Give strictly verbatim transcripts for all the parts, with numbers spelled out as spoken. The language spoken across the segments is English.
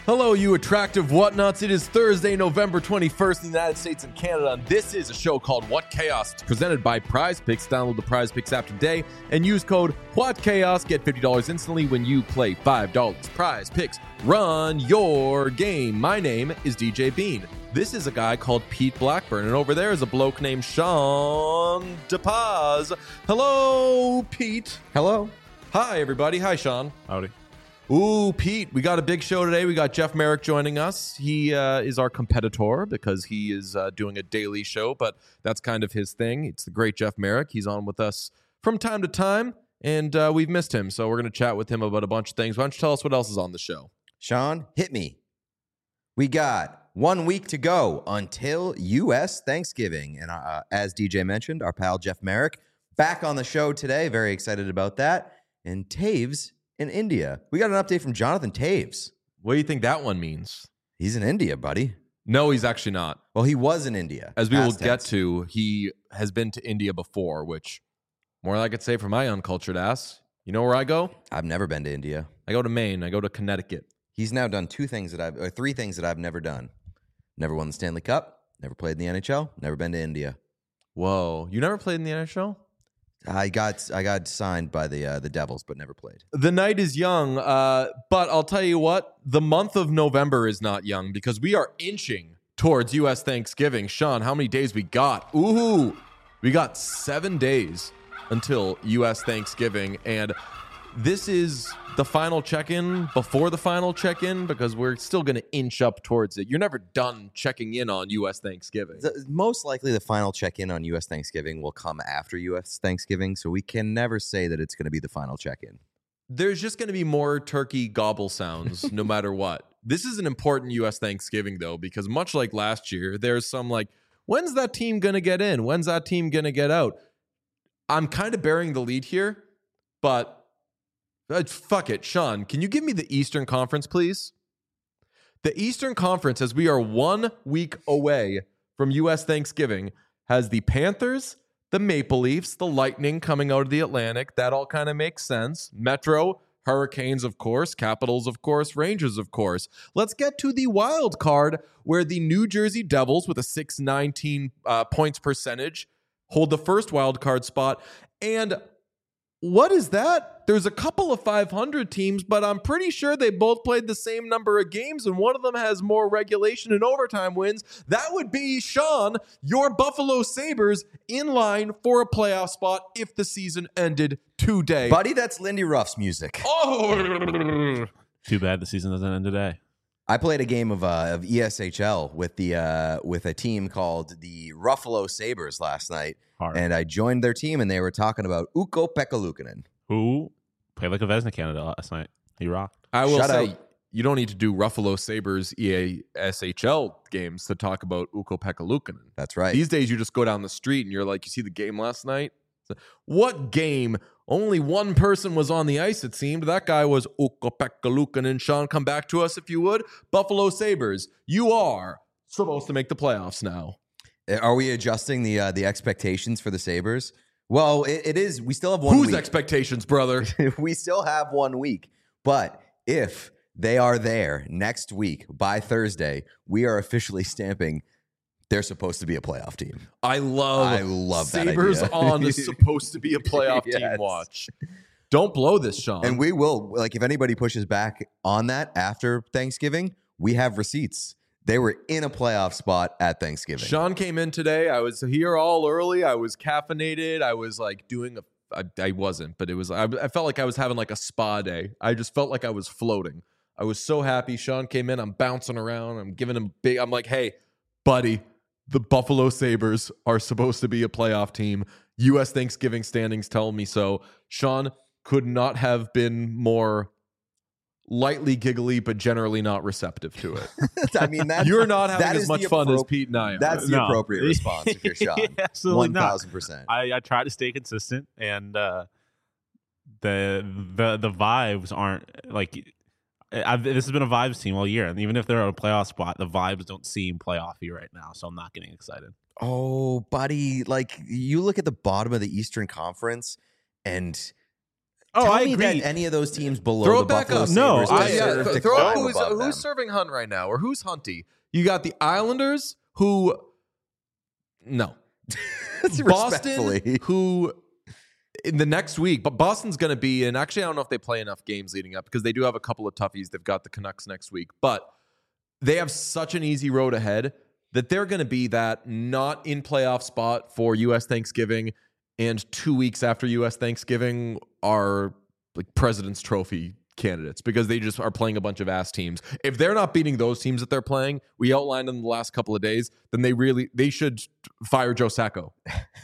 Hello, you attractive whatnots. It is Thursday, November twenty-first in the United States and Canada, and this is a show called What Chaos. It's presented by Prize Picks. Download the Prize Picks app today and use code WhatChaos. Get fifty dollars instantly when you play five dollars. Prize Picks. Run your game. My name is D J Bean. This is a guy called Pete Blackburn, and over there is a bloke named Sean DePaz. Hello, Pete. Hello. Hi, everybody. Hi, Sean. Howdy. Ooh, Pete, we got a big show today. We got Jeff Merrick joining us. He uh, is our competitor because he is uh, doing a daily show, but that's kind of his thing. It's the great Jeff Merrick. He's on with us from time to time, and uh, we've missed him, so we're going to chat with him about a bunch of things. Why don't you tell us what else is on the show? Sean, hit me. We got one week to go until U S Thanksgiving, and uh, as D J mentioned, our pal Jeff Merrick back on the show today. Very excited about that. And Taves in India. We got an update from Jonathan Taves. What do you think that one means? He's in India, buddy. No, he's actually not. Well, he was in India. As we will Past get tense. to, he has been to India before, which more than I could say for my uncultured ass. You know where I go? I've never been to India. I go to Maine. I go to Connecticut. He's now done two things that I've, or three things that I've never done. Never won the Stanley Cup, never played in the N H L, never been to India. Whoa. You never played in the N H L? I got I got signed by the uh, the Devils, but never played. The night is young, uh, but I'll tell you what, the month of November is not young because we are inching towards U S Thanksgiving. Sean, how many days we got? Ooh, we got seven days until U S Thanksgiving, and this is the final check-in before the final check-in because we're still going to inch up towards it. You're never done checking in on U S Thanksgiving. The, most likely, the final check-in on U S Thanksgiving will come after U S Thanksgiving, so we can never say that it's going to be the final check-in. There's just going to be more turkey gobble sounds no matter what. This is an important U S Thanksgiving, though, because much like last year, there's some like, when's that team going to get in? When's that team going to get out? I'm kind of bearing the lead here, but uh, fuck it. Sean, can you give me the Eastern Conference, please? The Eastern Conference, as we are one week away from U S Thanksgiving, has the Panthers, the Maple Leafs, the Lightning coming out of the Atlantic. That all kind of makes sense. Metro, Hurricanes, of course. Capitals, of course. Rangers, of course. Let's get to the wild card where the New Jersey Devils with a six nineteen uh, points percentage hold the first wild card spot. And what is that? There's a couple of five hundred teams, but I'm pretty sure they both played the same number of games, and one of them has more regulation and overtime wins. That would be, Sean, your Buffalo Sabres in line for a playoff spot if the season ended today. Buddy, that's Lindy Ruff's music. Oh! Too bad the season doesn't end today. I played a game of uh, of E S H L with the uh, with a team called the Ruffalo Sabres last night, Hard. and I joined their team, and they were talking about Ukko-Pekka Luukkonen. Who played like a Vezina candidate last night. He rocked. I will Shout say, out. you don't need to do Ruffalo Sabres E A S H L games to talk about Ukko-Pekka Luukkonen. That's right. These days, you just go down the street and you're like, you see the game last night? What game? Only one person was on the ice, it seemed. That guy was Ukko-Pekka Luukkonen. Sean, come back to us if you would. Buffalo Sabres, you are supposed to make the playoffs now. Are we adjusting the uh, the expectations for the Sabres? Well, it, it is. We still have one Whose week. expectations, brother? We still have one week. But if they are there next week by Thursday, we are officially stamping they're supposed to be a playoff team. I love, I love that Sabres idea. on is supposed to be a playoff Yes. team watch. Don't blow this, Sean. And we will, like, if anybody pushes back on that after Thanksgiving, we have receipts. They were in a playoff spot at Thanksgiving. Sean came in today. I was here all early. I was caffeinated. I was like doing a. I, I wasn't, but it was. I, I felt like I was having like a spa day. I just felt like I was floating. I was so happy. Sean came in. I'm bouncing around. I'm giving him big. I'm like, hey, buddy, the Buffalo Sabres are supposed to be a playoff team. U S Thanksgiving standings tell me so. Sean could not have been more lightly giggly, but generally not receptive to it. I mean, that, You're not having that as is much the fun as appro- Pete and I are. That's the No. appropriate response if you're Sean. Absolutely One not. thousand percent. I, I try to stay consistent, and uh, the the the vibes aren't like. I've, this has been a vibes team all year, and even if they're on a playoff spot, the vibes don't seem playoffy right now. So I'm not getting excited. Oh, buddy, like you look at the bottom of the Eastern Conference, and Oh, Tell I me agree. that any of those teams below Throw the it back Buffalo up. No, Sabres I- yeah, deserve th- to throw go up who's, above who's them. serving Hunt right now, or who's Hunty. You got the Islanders, who no, Boston, Respectfully. who in the next week, but Boston's going to be in. Actually, I don't know if they play enough games leading up because they do have a couple of toughies. They've got the Canucks next week, but they have such an easy road ahead that they're going to be that not in playoff spot for U S Thanksgiving, and two weeks after U S Thanksgiving are like President's Trophy candidates because they just are playing a bunch of ass teams. If they're not beating those teams that they're playing, we outlined in the last couple of days, then they really they should fire Joe Sacco.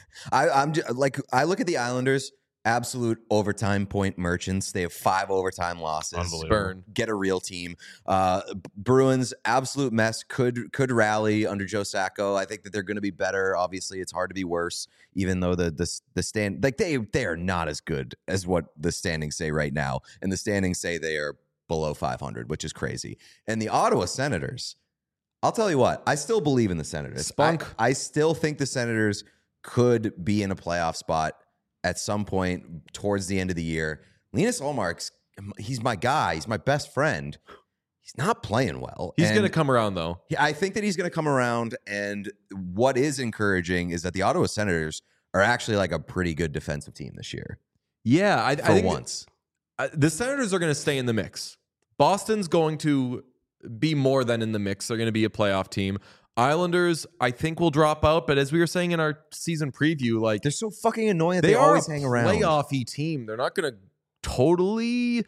I, I'm just, like I look at the Islanders, absolute overtime point merchants. They have five overtime losses. Unbelievable. Burn. Get a real team. Uh, Bruins, absolute mess. Could could rally under Joe Sacco. I think that they're going to be better. Obviously, it's hard to be worse. Even though the the the stand like they they are not as good as what the standings say right now, and the standings say they are below five hundred, which is crazy. And the Ottawa Senators. I'll tell you what. I still believe in the Senators. Spunk. I, I still think the Senators could be in a playoff spot at some point towards the end of the year. Linus Ullmark's, he's my guy. He's my best friend. He's not playing well. He's And going to come around though. he- I think that he's going to come around. And what is encouraging is that the Ottawa Senators are actually like a pretty good defensive team this year Yeah, I, for I think once. uh, the Senators are going to stay in the mix. Boston's going to be more than in the mix. They're going to be a playoff team. Islanders, I think, will drop out. But as we were saying in our season preview, like They're so fucking annoying that they, they, are always a hang around. playoffy team. They're not going to totally.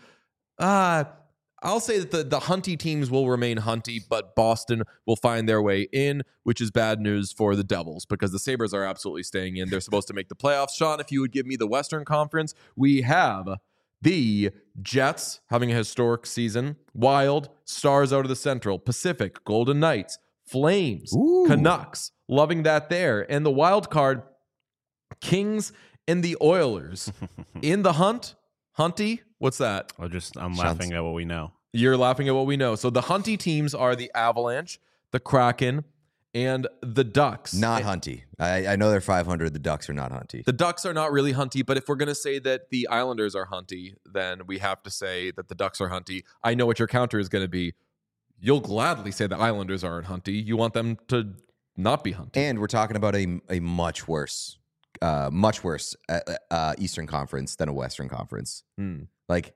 Uh, I'll say that the the Hunty teams will remain Hunty, but Boston will find their way in, which is bad news for the Devils because the Sabres are absolutely staying in. They're supposed to make the playoffs. Sean, if you would give me the Western Conference, we have the Jets having a historic season, Wild, Stars out of the Central, Pacific, Golden Knights, Flames, Ooh. Canucks, loving that there. And the wild card, Kings and the Oilers. In the hunt, Hunty, what's that? I just I'm Sounds- laughing at what we know. You're laughing at what we know. So the Hunty teams are the Avalanche, the Kraken, and the Ducks. Not Hunty. I, I know they're five hundred. The Ducks are not Hunty. The Ducks are not really Hunty, but if we're going to say that the Islanders are Hunty, then we have to say that the Ducks are Hunty. I know what your counter is going to be. You'll gladly say the Islanders aren't Hunty. You want them to not be Hunty. And we're talking about a a much worse, uh, much worse uh, uh, Eastern Conference than a Western Conference. Hmm. Like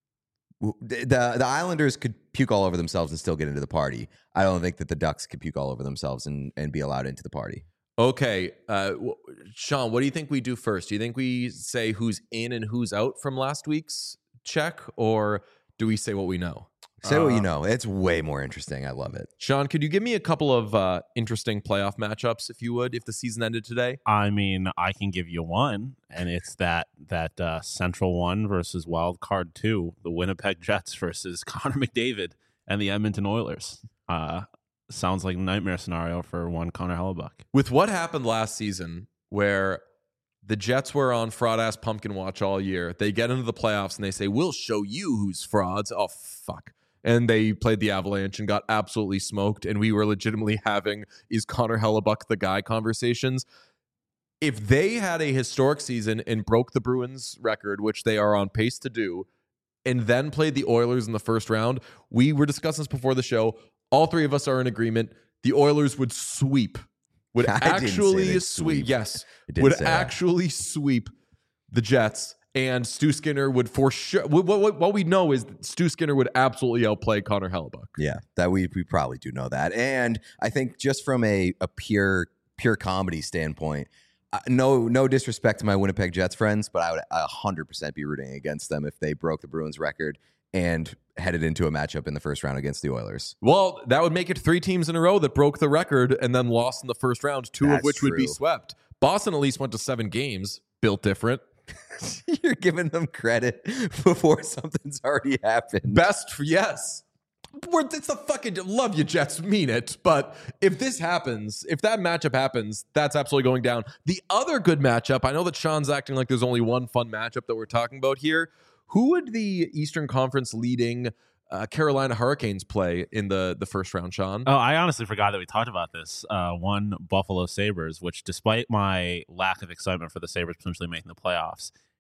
w- the the Islanders could puke all over themselves and still get into the party. I don't think that the Ducks could puke all over themselves and, and be allowed into the party. Okay, uh, w- Sean, what do you think we do first? Do you think we say who's in and who's out from last week's check, or do we say what we know? Say what Uh, you know. It's way more interesting. I love it. Sean, could you give me a couple of uh, interesting playoff matchups, if you would, if the season ended today? I mean, I can give you one, and it's that that uh, Central one versus Wild Card two, the Winnipeg Jets versus Connor McDavid and the Edmonton Oilers. Uh, sounds like a nightmare scenario for one Connor Hellebuck. With what happened last season, where the Jets were on fraud ass pumpkin watch all year, they get into the playoffs and they say, "We'll show you who's frauds." Oh fuck! And they played the Avalanche and got absolutely smoked. And we were legitimately having "Is Connor Hellebuck the guy?" conversations. If they had a historic season and broke the Bruins record, which they are on pace to do, and then played the Oilers in the first round, we were discussing this before the show. All three of us are in agreement. The Oilers would sweep. Would I didn't say actually they'd sweep. sweep. Yes. I didn't Would say that. actually sweep the Jets. And Stu Skinner would for sure. What, what, what we know is that Stu Skinner would absolutely outplay Connor Hellebuck. Yeah, that we we probably do know that. And I think just from a, a pure pure comedy standpoint, uh, no no disrespect to my Winnipeg Jets friends, but I would one hundred percent be rooting against them if they broke the Bruins record and headed into a matchup in the first round against the Oilers. Well, that would make it three teams in a row that broke the record and then lost in the first round, two of That's which would be true. swept. Boston at least went to seven games, built different. You're giving them credit before something's already happened. Best, for, yes. We're, it's the fucking love you, Jets, mean it. But if this happens, if that matchup happens, that's absolutely going down. The other good matchup, I know that Sean's acting like there's only one fun matchup that we're talking about here. Who would the Eastern Conference leading uh, Carolina Hurricanes play in the, the first round, Sean? Oh, I honestly forgot that we talked about this. Uh, one Buffalo Sabres, which despite my lack of excitement for the Sabres potentially making the playoffs,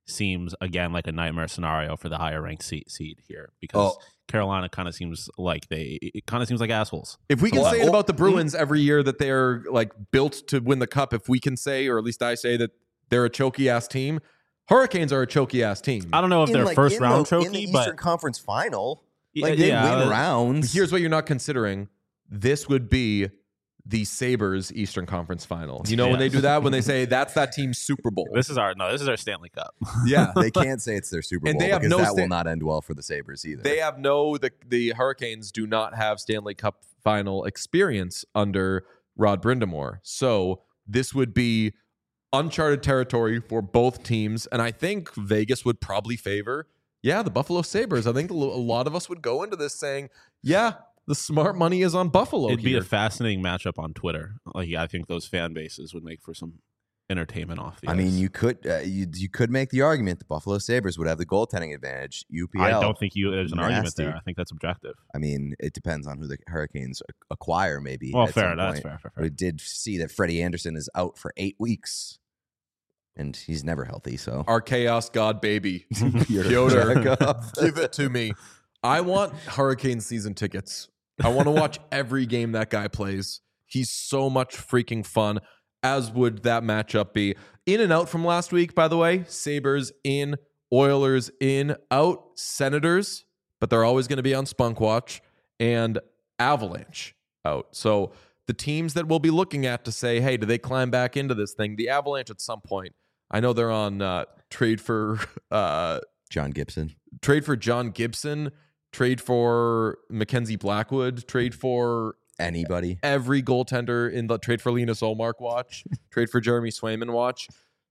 seems again like a nightmare scenario for the higher ranked seed, seed here because Oh. Carolina kind of seems like they it kind of seems like assholes. If we can Well, say it oh, about the Bruins every year that they're like built to win the cup, if we can say, or at least I say that they're a choky ass team, Hurricanes are a choky ass team. I don't know if In, they're like, first in round the, in the choky, Eastern but Conference Final, Yeah, like they yeah, win uh, rounds. Here's what you're not considering. This would be the Sabres Eastern Conference Final. You know when Yeah. they do that, when they say that's that team's Super Bowl. this is our no, this is our Stanley Cup. yeah. They can't say it's their Super Bowl And they have because no that sta- will not end well for the Sabres either. They have no the the Hurricanes do not have Stanley Cup final experience under Rod Brindamore. So this would be uncharted territory for both teams, and I think Vegas would probably favor, yeah, the Buffalo Sabres. I think a lo- a lot of us would go into this saying, yeah, the smart money is on Buffalo. It'd be here. a fascinating matchup on Twitter. Like I think those fan bases would make for some entertainment off the I ice. mean, you could uh, you you could make the argument the Buffalo Sabres would have the goaltending advantage. U P L. I don't think you there's an argument nasty. there. I think that's objective. I mean, it depends on who the Hurricanes ac- acquire. Maybe. Well, at fair. some That's point. fair. fair, fair. We did see that Freddie Anderson is out for eight weeks, and he's never healthy. So Our chaos god baby. Pyotr Pyotr, Chekov. give it to me. I want Hurricane season tickets. I want to watch every game that guy plays. He's so much freaking fun, as would that matchup be. In and out from last week, by the way. Sabres in, Oilers in, out, Senators, but they're always going to be on Spunk Watch, and Avalanche out. So the teams that we'll be looking at to say, hey, do they climb back into this thing? The Avalanche at some point. I know they're on uh, trade for uh, John Gibson. trade for John Gibson, trade for Mackenzie Blackwood, trade for Anybody? every goaltender in the trade for Linus Olmark watch, trade for Jeremy Swayman watch.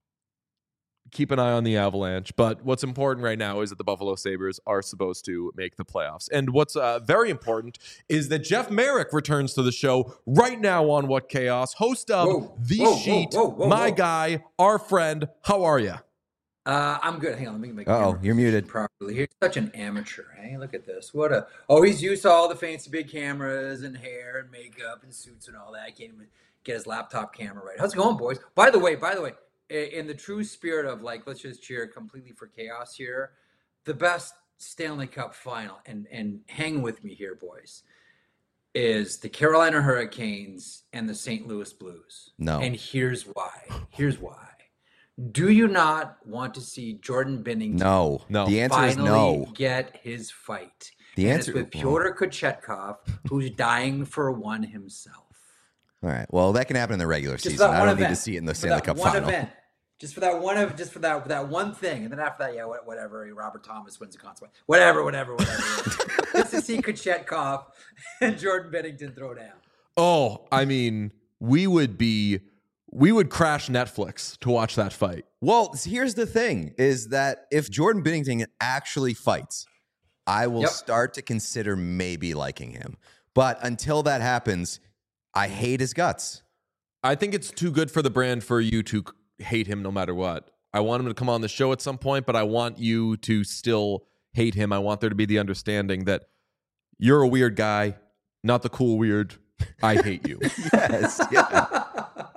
Keep an eye on the Avalanche. But what's important right now is that the Buffalo Sabres are supposed to make the playoffs. And what's uh, very important is that Jeff Merrick returns to the show right now on What Chaos, host of Whoa, The whoa, whoa, Sheet, whoa, whoa, my whoa. guy, our friend. How are you? Uh, I'm good. Hang on, let me make. Uh-oh, camera you're muted. properly. He's such an amateur. Hey, look at this. What a. Oh, he's used to all the fancy big cameras and hair and makeup and suits and all that. I can't even get his laptop camera right. How's it going, boys? By the way, by the way, i- in the true spirit of like, let's just cheer completely for chaos here. The best Stanley Cup final, and and hang with me here, boys, is the Carolina Hurricanes and the Saint Louis Blues. No. And here's why. Here's why. Do you not want to see Jordan Bennington No. No. The answer is finally no. get his fight? The And answer it's with Pyotr Kochetkov, who's dying for one himself. All right. Well, that can happen in the regular Just for season. that I one don't need event. to see it in the For Stanley that Cup one final. event. Just for that one of just for that for that one thing, and then after that, yeah, what- whatever. Robert Thomas wins the consequence. Whatever, whatever, whatever. Just to see Kochetkov and Jordan Bennington throw down. Oh, I mean, we would be, we would crash Netflix to watch that fight. Well, here's the thing: is that if Jordan Binnington actually fights, I will Yep. start to consider maybe liking him. But until that happens, I hate his guts. I think it's too good for the brand for you to hate him no matter what. I want him to come on the show at some point, but I want you to still hate him. I want there to be the understanding that you're a weird guy, not the cool weird. I hate you. Yes. Yeah.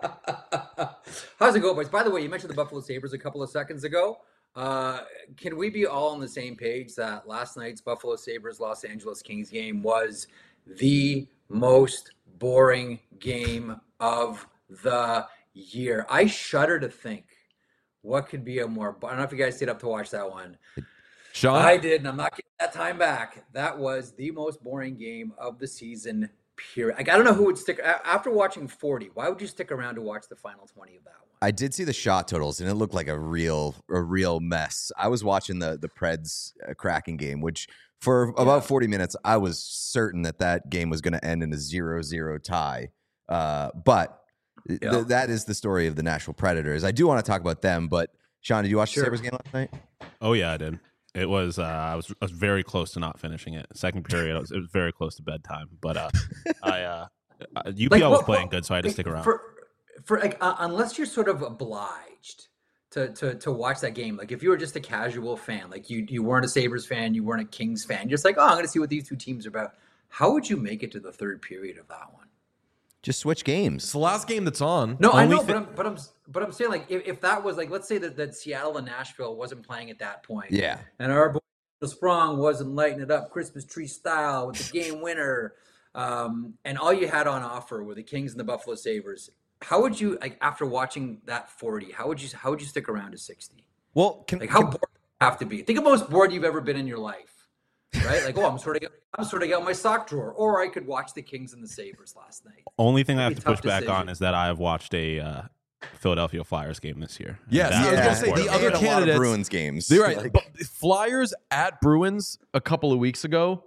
How's it go, boys? By the way, you mentioned the Buffalo Sabres a couple of seconds ago. Uh, can we be all on the same page that last night's Buffalo Sabres Los Angeles Kings game was the most boring game of the year? I shudder to think what could be a more. I don't know if you guys stayed up to watch that one. Sean, I did, and I'm not getting that time back. That was the most boring game of the season, period. Like, I don't know who would stick a- after watching forty. Why would you stick around to watch the final twenty of that one? I did see the shot totals, and it looked like a real, a real mess. I was watching the the Preds uh, Kraken game, which for about forty minutes, I was certain that that game was going to end in a zero zero tie. Uh, but th- Yeah. that is the story of the Nashville Predators. I do want to talk about them, but Sean, did you watch Sure. the Sabres game last night? Oh yeah, I did. It was uh, I was I was very close to not finishing it. Second period, I was, it was very close to bedtime. But uh, I uh, uh, U P L Like, was what- playing what- good, so I had to like, stick around. For, for like, uh, unless you're sort of obliged to, to to watch that game. Like, if you were just a casual fan, like you you weren't a Sabres fan, you weren't a Kings fan, you're just like, oh, I'm going to see what these two teams are about. How would you make it to the third period of that one? Just switch It's games. the last game that's on. No, I Only know, thi- but I'm but I'm but I'm saying like if, if that was like let's say that, that Seattle and Nashville wasn't playing at that point, Yeah. and our boy Sprong wasn't lighting it up Christmas tree style with the game winner, um, and all you had on offer were the Kings and the Buffalo Sabres. How would you like after watching that forty? How would you how would you stick around to sixty? Well, can, Like how can- bored do you have to be? Think of the most bored you've ever been in your life, right? Like, oh, I'm sort of I'm sort of out my sock drawer, or I could watch the Kings and the Sabres last night. Only thing I have Pretty to push tough back decision. on is that I have watched a uh, Philadelphia Flyers game this year. And Yes, that I was is gonna say, important. the other and a lot of candidates- Bruins games. They're right. Like- But Flyers at Bruins a couple of weeks ago,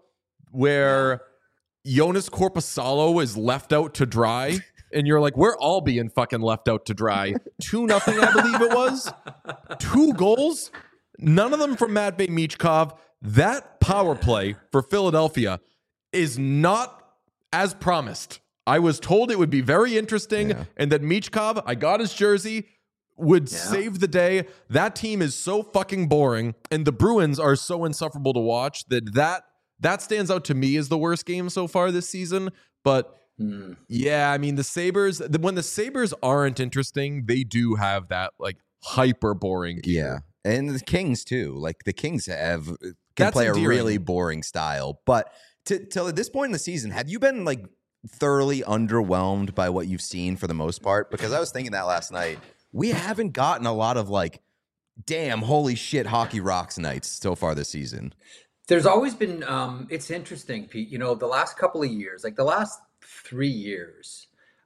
where Jonas Corposalo is left out to dry, and you're like, we're all being fucking left out to dry. Two nothing, I believe it was. Two goals, none of them from Matvei Michkov. That power play for Philadelphia is not as promised. I was told it would be very interesting, Yeah. and that Michkov, I got his jersey, would Yeah. save the day. That team is so fucking boring, and the Bruins are so insufferable to watch that that that stands out to me as the worst game so far this season. But Hmm. yeah, I mean the Sabres. The, when the Sabres aren't interesting, they do have that like hyper boring. Yeah. And the Kings too. Like the Kings have can That's play endearing. a really boring style. But to till at this point in the season, have you been like thoroughly underwhelmed by what you've seen for the most part? Because I was thinking that last night. We haven't gotten a lot of like, damn, holy shit, hockey rocks nights so far this season. There's always been, um, it's interesting, Pete. You know, the last couple of years, like the last three years,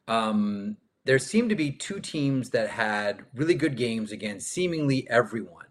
um, there seemed to be two teams that had really good games against seemingly everyone.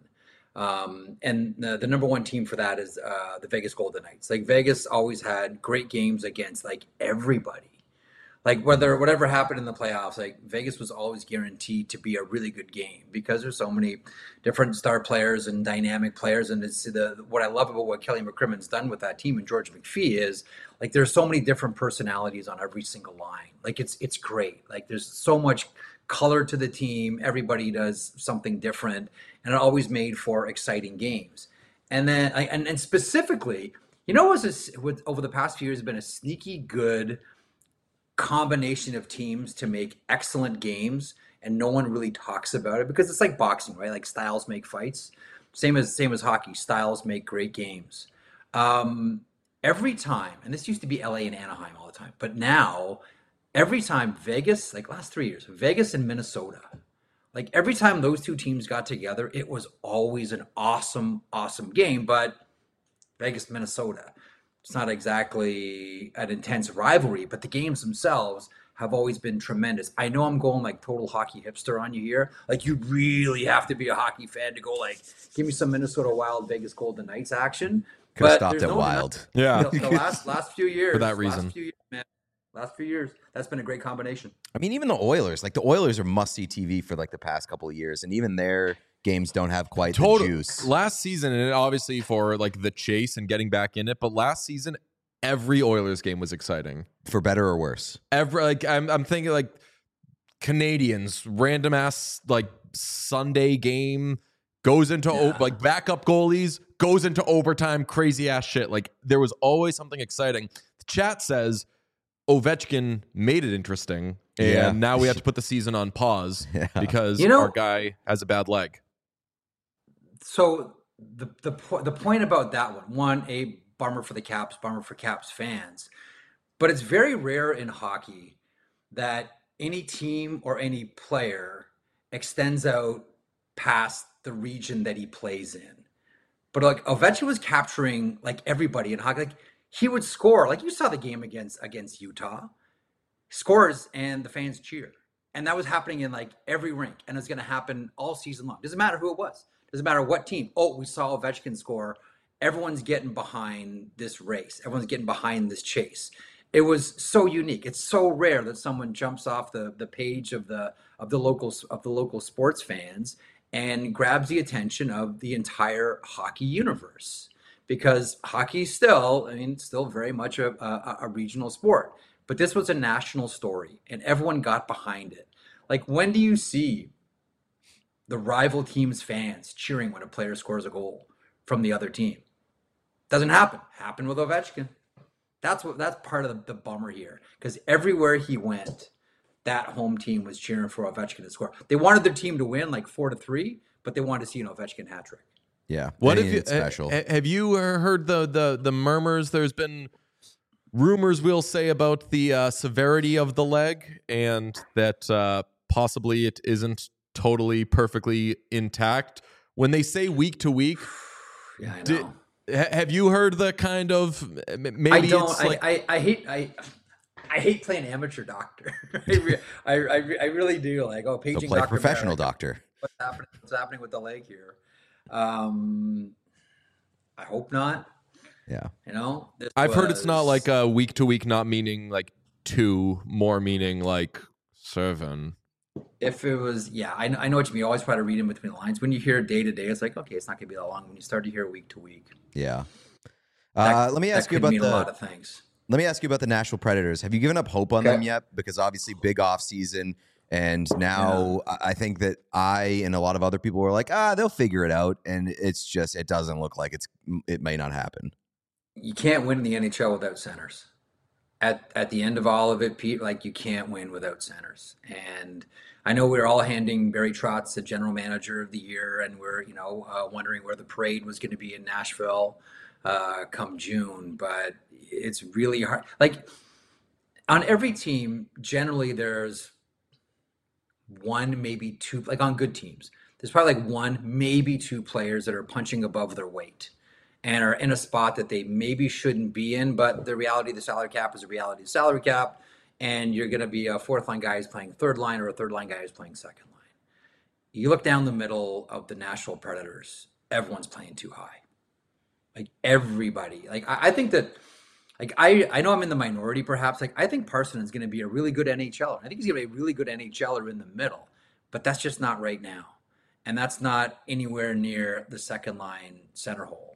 Um, and the, the number one team for that is uh, the Vegas Golden Knights. Like Vegas always had great games against like everybody. Like whether whatever happened in the playoffs, like Vegas was always guaranteed to be a really good game because there's so many different star players and dynamic players. And it's the what I love about what Kelly McCrimmon's done with that team and George McPhee is like there's so many different personalities on every single line. Like it's it's great. Like there's so much color to the team. Everybody does something different, and it always made for exciting games. And then and and specifically, you know, what's this, with over the past few years has been a sneaky good combination of teams to make excellent games, and no one really talks about it because it's like boxing, right? Like styles make fights. Same as same as hockey. Styles make great games. Um, every time, and this used to be L A and Anaheim all the time, but now every time Vegas, like last three years, Vegas and Minnesota, like every time those two teams got together, it was always an awesome, awesome game. But Vegas, Minnesota, it's not exactly an intense rivalry, but the games themselves have always been tremendous. I know I'm going like total hockey hipster on you here. Like you really have to be a hockey fan to go like, give me some Minnesota Wild, Vegas Golden Knights action. Could have But stopped there's at no Wild. Yeah. The, the last last few years, For that reason. last few years, man, last few years, that's been a great combination. I mean, even the Oilers, like the Oilers are must-see T V for like the past couple of years, and even their games don't have quite Total the juice. last season, and obviously for like the chase and getting back in it. But last season, every Oilers game was exciting. For better or worse. Every like I'm I'm thinking like Canadians, random ass like Sunday game goes into o- Yeah. like backup goalies, goes into overtime, crazy ass shit. Like there was always something exciting. The chat says Ovechkin made it interesting, and Yeah. now we have to put the season on pause Yeah. because You know- our guy has a bad leg. So the the po- the point about that one, one, a bummer for the Caps, bummer for Caps fans, but it's very rare in hockey that any team or any player extends out past the region that he plays in. But like Ovechkin was capturing like everybody in hockey. Like he would score. Like you saw the game against against Utah, scores and the fans cheer, and that was happening in like every rink, and it's going to happen all season long. Doesn't matter who it was. Doesn't matter what team. Oh, we saw Ovechkin score. Everyone's getting behind this race. Everyone's getting behind this chase. It was so unique. It's so rare that someone jumps off the, the page of the of the local of the local sports fans and grabs the attention of the entire hockey universe. Because hockey still, I mean, it's still very much a, a, a regional sport. But this was a national story, and everyone got behind it. Like, when do you see the rival team's fans cheering when a player scores a goal from the other team? Doesn't happen. Happened with Ovechkin. That's what. That's part of the, the bummer here, because everywhere he went, that home team was cheering for Ovechkin to score. They wanted their team to win like four to three, but they wanted to see an Ovechkin hat trick. Yeah. What they if you needed special? ha- have you heard the the the murmurs? There's been rumors, we'll say, about the uh, severity of the leg, and that uh, possibly it isn't totally perfectly intact. When they say week to week, Yeah, I know. Did, ha- have you heard the kind of maybe I don't. it's I, like I, I hate. I. I hate playing amateur doctor. I, re, I, I, I really do. Like, oh, Go paging play Doctor professional Merrick. doctor. What's happening? What's happening with the leg here? Um, I hope not. Yeah. You know, this I've heard it's not was- like a week to week, not meaning like two, more meaning like seven. If it was, yeah, I, I know what you mean. You always try to read in between the lines. When you hear day to day, it's like, okay, it's not going to be that long. When you start to hear week to week, Yeah. that, Uh, let me ask that you could about mean the a lot of things. Let me ask you about the Nashville Predators. Have you given up hope on Okay. them yet? Because obviously, big off season, and now I I think that I and a lot of other people were like, ah, they'll figure it out, and it's just it doesn't look like it's it may not happen. You can't win in the N H L without centers. At at the end of all of it, Pete, like you can't win without centers. And I know we we're all handing Barry Trotz the general manager of the year, and we're you know uh, wondering where the parade was going to be in Nashville uh, come June. But it's really hard. Like on every team, generally there's one, maybe two. Like on good teams, there's probably like one, maybe two players that are punching above their weight and are in a spot that they maybe shouldn't be in. But the reality of the salary cap is a reality of salary cap. And you're going to be a fourth line guy who's playing third line or a third line guy who's playing second line. You look down the middle of the Nashville Predators, everyone's playing too high. Like everybody. Like I, I think that, like I, I know I'm in the minority perhaps. Like I think Parson is going to be a really good N H L er. I think he's going to be a really good N H L er in the middle. But that's just not right now. And that's not anywhere near the second line center hole.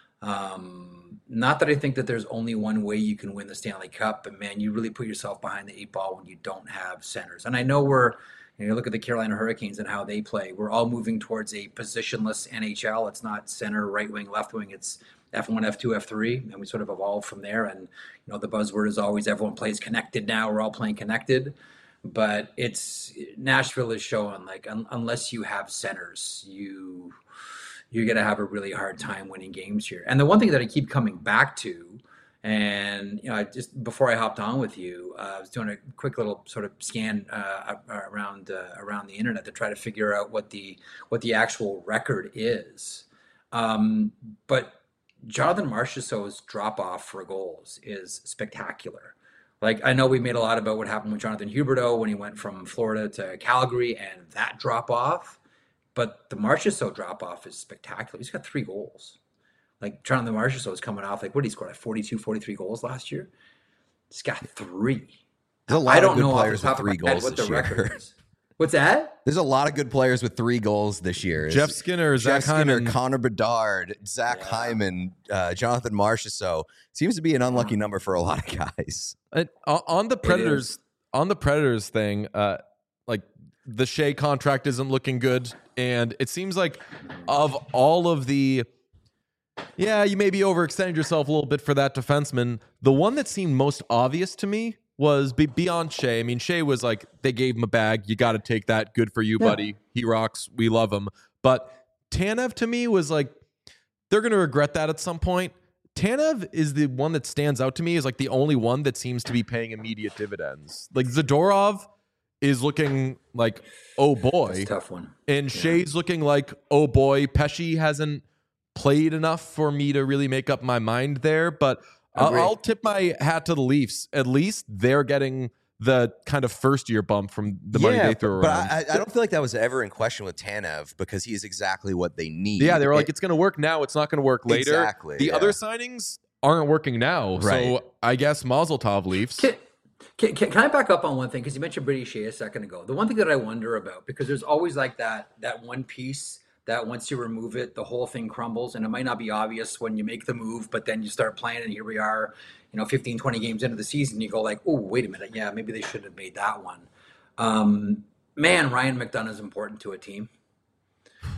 Um, not that I think that there's only one way you can win the Stanley Cup, but man, you really put yourself behind the eight ball when you don't have centers. And I know we're, you know, look at the Carolina Hurricanes and how they play. We're all moving towards a positionless N H L. It's not center, right wing, left wing. It's F one, F two, F three, and we sort of evolved from there. And you know, the buzzword is always everyone plays connected now. We're all playing connected. But it's Nashville is showing like un, unless you have centers, you you're going to have a really hard time winning games here. And the one thing that I keep coming back to, and you know, I just before I hopped on with you, uh, I was doing a quick little sort of scan uh, around uh, around the internet to try to figure out what the what the actual record is. Um, but Jonathan Marchessault's drop off for goals is spectacular. Like I know we made a lot about what happened with Jonathan Huberdeau when he went from Florida to Calgary and that drop off. But the Marchessault drop-off is spectacular. He's got three goals. Like, Jonathan Marchessault is coming off, like, what did he score? Like forty-two, forty-three goals last year? He's got three. There's a lot I of don't good know off the players with top of three my head goals what this the record year. is. What's that? There's a lot of good players with three goals this year. Jeff Skinner, Jeff Zach Skinner, Hyman. Connor Bedard, Zach Yeah. Hyman, uh, Jonathan Marchessault. Seems to be an unlucky number for a lot of guys. Uh, on the is. Predators, on the Predators thing, uh, like the Shea contract isn't looking good, and it seems like of all of the, yeah, you maybe overextended yourself a little bit for that defenseman. The one that seemed most obvious to me was be- beyond Shea. I mean, Shea was like, they gave him a bag. You got to take that. Good for you, Yeah. buddy. He rocks. We love him. But Tanev to me was like, they're going to regret that at some point. Tanev is the one that stands out to me as like the only one that seems to be paying immediate dividends. Like Zadorov is looking like, oh That's a boy. tough one. And Shea's looking like, oh boy. Pesci hasn't played enough for me to really make up my mind there. But I'll, Agree. I'll tip my hat to the Leafs. At least they're getting the kind of first year bump from the money they threw but around. I, I don't feel like that was ever in question with Tanev because he is exactly what they need. yeah, they were like, It- it's going to work now. It's not going to work later. Exactly, The yeah. other signings aren't working now. Right. So I guess Mazel Tov Leafs. Can, can, can, can I back up on one thing? Because you mentioned Brady Shea a second ago. The one thing that I wonder about, because there's always like that that one piece that once you remove it, the whole thing crumbles. And it might not be obvious when you make the move, but then you start playing and here we are, you know, fifteen, twenty games into the season, you go like, oh, wait a minute. Yeah, maybe they should have made that one. Um, man, Ryan McDonough is important to a team.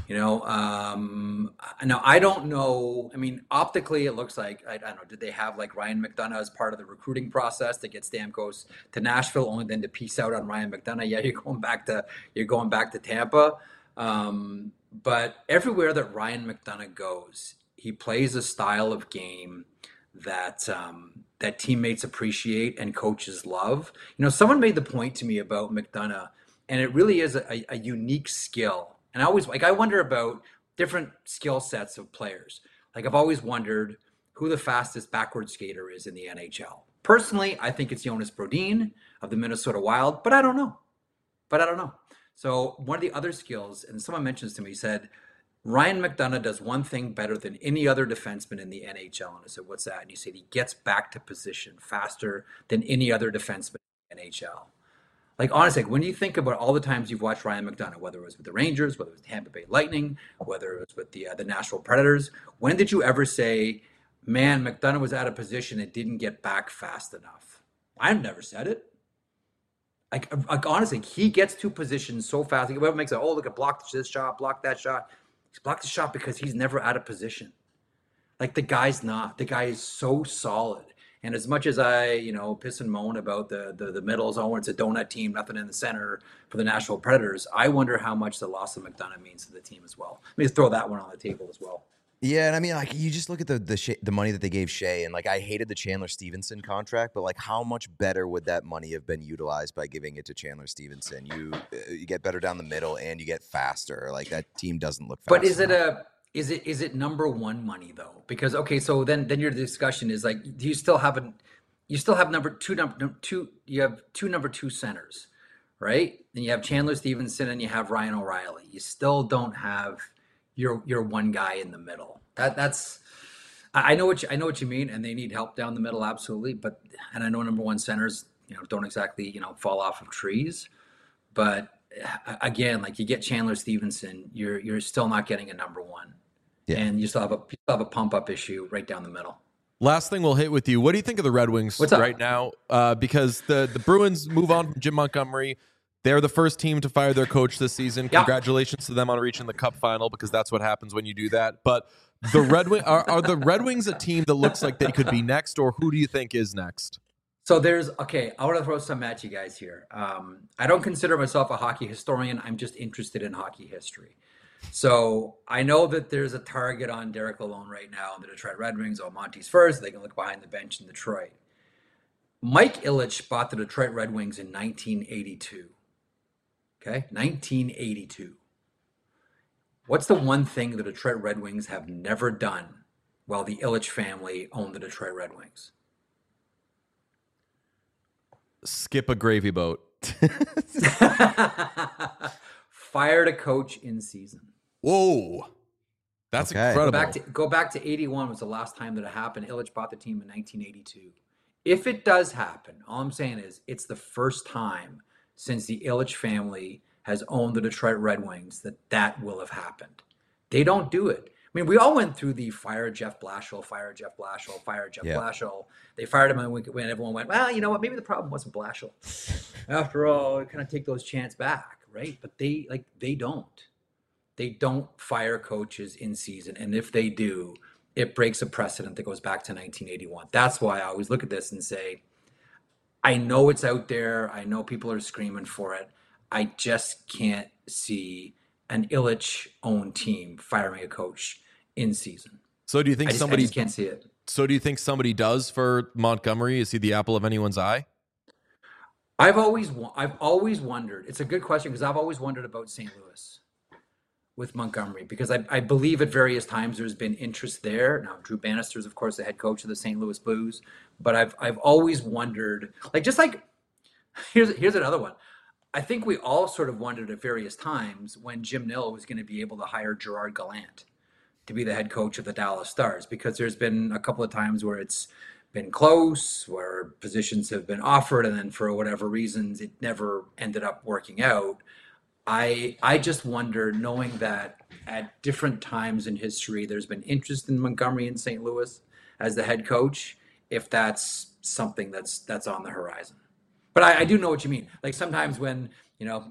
You know, um, now I don't know. I mean, optically, it looks like I, I don't know. Did they have like Ryan McDonough as part of the recruiting process to get Stamkos to Nashville, only then to peace out on Ryan McDonough? Yeah, you're going back to you're going back to Tampa. Um, but everywhere that Ryan McDonough goes, he plays a style of game that um, that teammates appreciate and coaches love. You know, someone made the point to me about McDonough, and it really is a, a unique skill. And I always like I wonder about different skill sets of players. Like I've always wondered who the fastest backward skater is in the N H L. Personally, I think it's Jonas Brodin of the Minnesota Wild, but I don't know. But I don't know. So one of the other skills, and someone mentions to me, said Ryan McDonough does one thing better than any other defenseman in the N H L. And I said, what's that? And he said he gets back to position faster than any other defenseman in the N H L. Like, honestly, when you think about all the times you've watched Ryan McDonough, whether it was with the Rangers, whether it was Tampa Bay Lightning, whether it was with the uh, the Nashville Predators, when did you ever say, man, McDonough was out of position and didn't get back fast enough? I've never said it. Like, like honestly, he gets to position so fast. Like, whoever makes it, oh, look at block this shot, block that shot. He's blocked the shot because he's never out of position. Like, the guy's not. The guy is so solid. And as much as I, you know, piss and moan about the, the the middle zone, it's a donut team, nothing in the center for the Nashville Predators, I wonder how much the loss of McDonough means to the team as well. Let me just throw that one on the table as well. Yeah, and I mean, like, you just look at the the, Shea, the money that they gave Shea, and like, I hated the Chandler Stevenson contract, but like, how much better would that money have been utilized by giving it to Chandler Stevenson? You uh, you get better down the middle, and you get faster. Like, that team doesn't look fast. But is it a is it is it number one money though? Because okay, so then then your discussion is like, do you still have an you still have number two number two you have two number two centers, right? Then you have Chandler Stevenson and you have Ryan O'Reilly. You still don't have your your one guy in the middle. That that's I know what you, I know what you mean, and they need help down the middle, absolutely. But and I know number one centers, you know, don't exactly, you know, fall off of trees. But again, like, you get Chandler Stevenson, you're you're still not getting a number one, yeah. And you still have a you still have a pump up issue right down the middle. Last thing we'll hit with you. What do you think of the Red Wings right now? Uh, because the, the Bruins move on from Jim Montgomery. They're the first team to fire their coach this season. Yeah. Congratulations to them on reaching the Cup final, because that's what happens when you do that. But the Red Wing are, are the Red Wings a team that looks like they could be next, or who do you think is next? So there's okay. I want to throw some at you guys here. Um, I don't consider myself a hockey historian. I'm just interested in hockey history. So I know that there's a target on Derek Lalonde right now on the Detroit Red Wings. Oh, Monty's first. They can look behind the bench in Detroit. Mike Ilitch bought the Detroit Red Wings in nineteen eighty-two. Okay, nineteen eighty-two. What's the one thing the Detroit Red Wings have never done while the Ilitch family owned the Detroit Red Wings? Skip a gravy boat. Fired a coach in season. Whoa. That's okay. Incredible. Go back, to, go back to eighty-one was the last time that it happened. Ilitch bought the team in nineteen eighty-two. If it does happen, all I'm saying is it's the first time since the Ilitch family has owned the Detroit Red Wings that that will have happened. They don't do it. I mean, we all went through the fire Jeff Blashill, fire Jeff Blashill, fire Jeff yeah. Blashill. They fired him when everyone went, well, you know what? Maybe the problem wasn't Blashill. After all, kind of take those chants back, right? But they like they don't. They don't fire coaches in season, and if they do, it breaks a precedent that goes back to nineteen eighty-one. That's why I always look at this and say, I know it's out there. I know people are screaming for it. I just can't see an Ilitch-owned team firing a coach in season. So do you think I just, somebody I just can't see it? So do you think somebody does for Montgomery? Is he the apple of anyone's eye? I've always I've always wondered. It's a good question, because I've always wondered about Saint Louis with Montgomery, because I, I believe at various times there's been interest there. Now, Drew Bannister is, of course, the head coach of the Saint Louis Blues, but I've I've always wondered, like, just like here's here's another one. I think we all sort of wondered at various times when Jim Nill was going to be able to hire Gerard Gallant to be the head coach of the Dallas Stars, because there's been a couple of times where it's been close, where positions have been offered, and then for whatever reasons, it never ended up working out. I I just wonder, knowing that at different times in history, there's been interest in Montgomery in Saint Louis as the head coach, if that's something that's that's on the horizon. But I, I do know what you mean. Like, sometimes when, you know,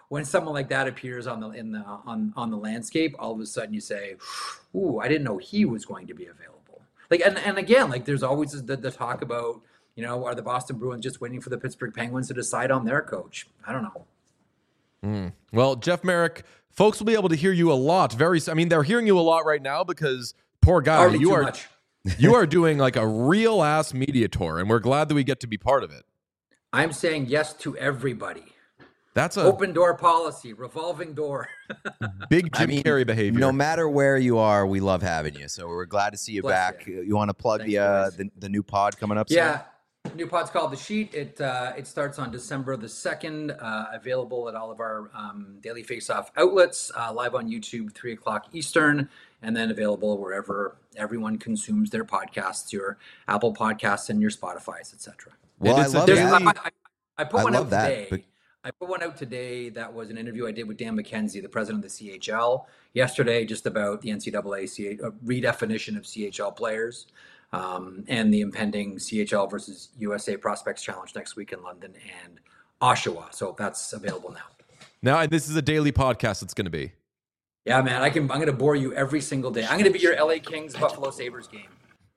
when someone like that appears on the in the on on the landscape, all of a sudden you say, "Ooh, I didn't know he was going to be available." Like, and and again, like there's always the, the talk about, you know, are the Boston Bruins just waiting for the Pittsburgh Penguins to decide on their coach? I don't know. Mm. Well, Jeff Marek, folks will be able to hear you a lot. Very, I mean, they're hearing you a lot right now because poor guy, Already you too are much. you are doing like a real ass media tour, and we're glad that we get to be part of it. I'm saying yes to everybody. That's a Open door policy, revolving door. big Jim I mean, Carrey behavior. No matter where you are, we love having you. So we're glad to see you Bless back. you. You, want to plug Thanks, the, uh, boys. the the new pod coming up? Yeah. New pod's called The Sheet. It uh, it starts on December the second, uh, available at all of our um, Daily Face-Off outlets, uh, live on YouTube, three o'clock Eastern, and then available wherever everyone consumes their podcasts, your Apple Podcasts and your Spotify's, et cetera. Well, And I it's a love daily- that. I, I, I put I one love out that, today. but- I put one out today that was an interview I did with Dan McKenzie, the president of the C H L, yesterday, just about the N C double A C H, uh, redefinition of C H L players, um, and the impending C H L versus U S A Prospects Challenge next week in London and Oshawa. So that's available now. Now, this is a daily podcast. It's going to be. Yeah, man, I can. I'm going to bore you every single day. I'm going to be your L A Kings Buffalo Sabres game.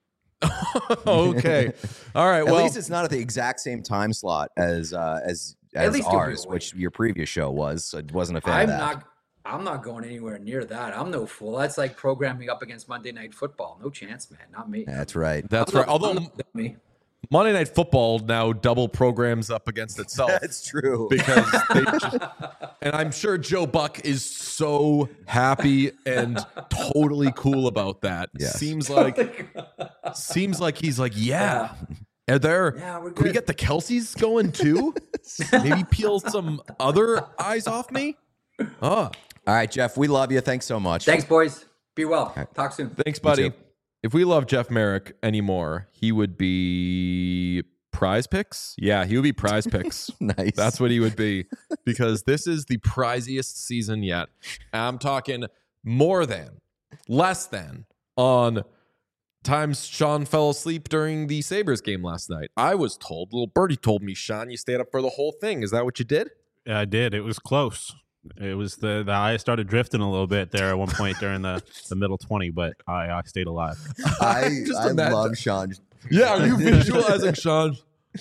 Okay. All right. At Well, least it's not at the exact same time slot as uh, as At as least you'll be ours, awake. which your previous show was. So I wasn't a fan I'm of that. not. I'm not going anywhere near that. I'm no fool. That's like programming up against Monday Night Football. No chance, man. Not me. That's right. that's I'm right. not- Although I'm not me. Monday Night Football now double programs up against itself. That's true. because they just, and I'm sure Joe Buck is so happy and totally cool about that. Yes. Seems like seems like he's like, yeah. Are there Yeah, we're can we good. get the Kelseys going too? Maybe peel some other eyes off me? Oh, All right, Jeff, we love you. Thanks so much. Thanks, boys. Be well. Talk soon. thanks, buddy. too. If we love Jeff Marek anymore, he would be Prize Picks. Yeah, he would be Prize Picks. Nice. That's what he would be, because this is the priziest season yet. I'm talking more than, less than on times Sean fell asleep during the Sabres game last night. I was told, little birdie told me, Sean, you stayed up for the whole thing. Is that what you did? Yeah, I did. It was close. It was the the eye started drifting a little bit there at one point during the, the middle twenty, but I, I stayed alive. I, Just I imagine- love Sean. Yeah, are you visualizing, Sean?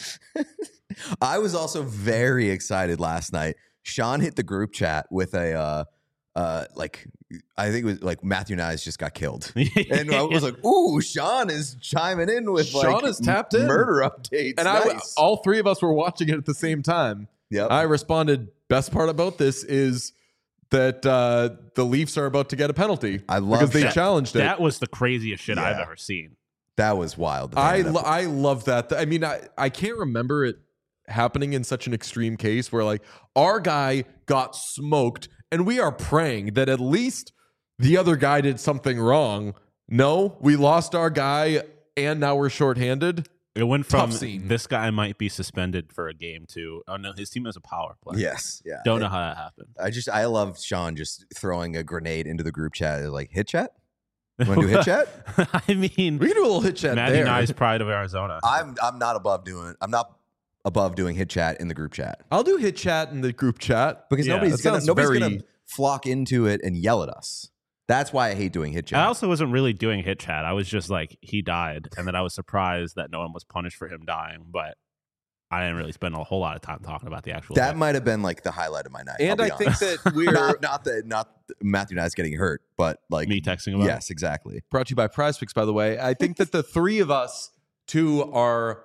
I was also very excited last night. Sean hit the group chat with a uh uh like I think it was like Matthew Nyes just got killed. And I was like, ooh, Sean is chiming in with Sean like is tapped in. murder updates. And I, nice. all three of us were watching it at the same time. Yep. I responded, best part about this is that uh, the Leafs are about to get a penalty I love because they that. challenged it. That was the craziest shit I've Yeah. ever seen. That was wild. I Man, lo- I love that. I mean, I, I can't remember it happening in such an extreme case where like our guy got smoked and we are praying that at least the other guy did something wrong. No, we lost our guy and now we're shorthanded. It went Tough from scene. this guy might be suspended for a game to, oh no, his team has a power play. yes. Yeah. Don't know how that happened. I just I love Sean just throwing a grenade into the group chat. Like hit chat. You want to do hit chat? I mean, We can do a little hit chat Matty there. Nyes, pride of Arizona. I'm I'm not above doing. I'm not above doing hit chat in the group chat I'll do hit chat in the group chat. because Yeah. nobody's That gonna sounds nobody's very- gonna flock into it and yell at us. That's why I hate doing hit chat. I also wasn't really doing hit chat. I was just like, he died. And then I was surprised that no one was punished for him dying. But I didn't really spend a whole lot of time talking about the actual that hit. might have been like the highlight of my night. And I'll I be think honest. that we're not not that not Matthew Nyes getting hurt, but like Me texting about it. yes, exactly. brought to you by Prize Picks, by the way. I think that the three of us, two, are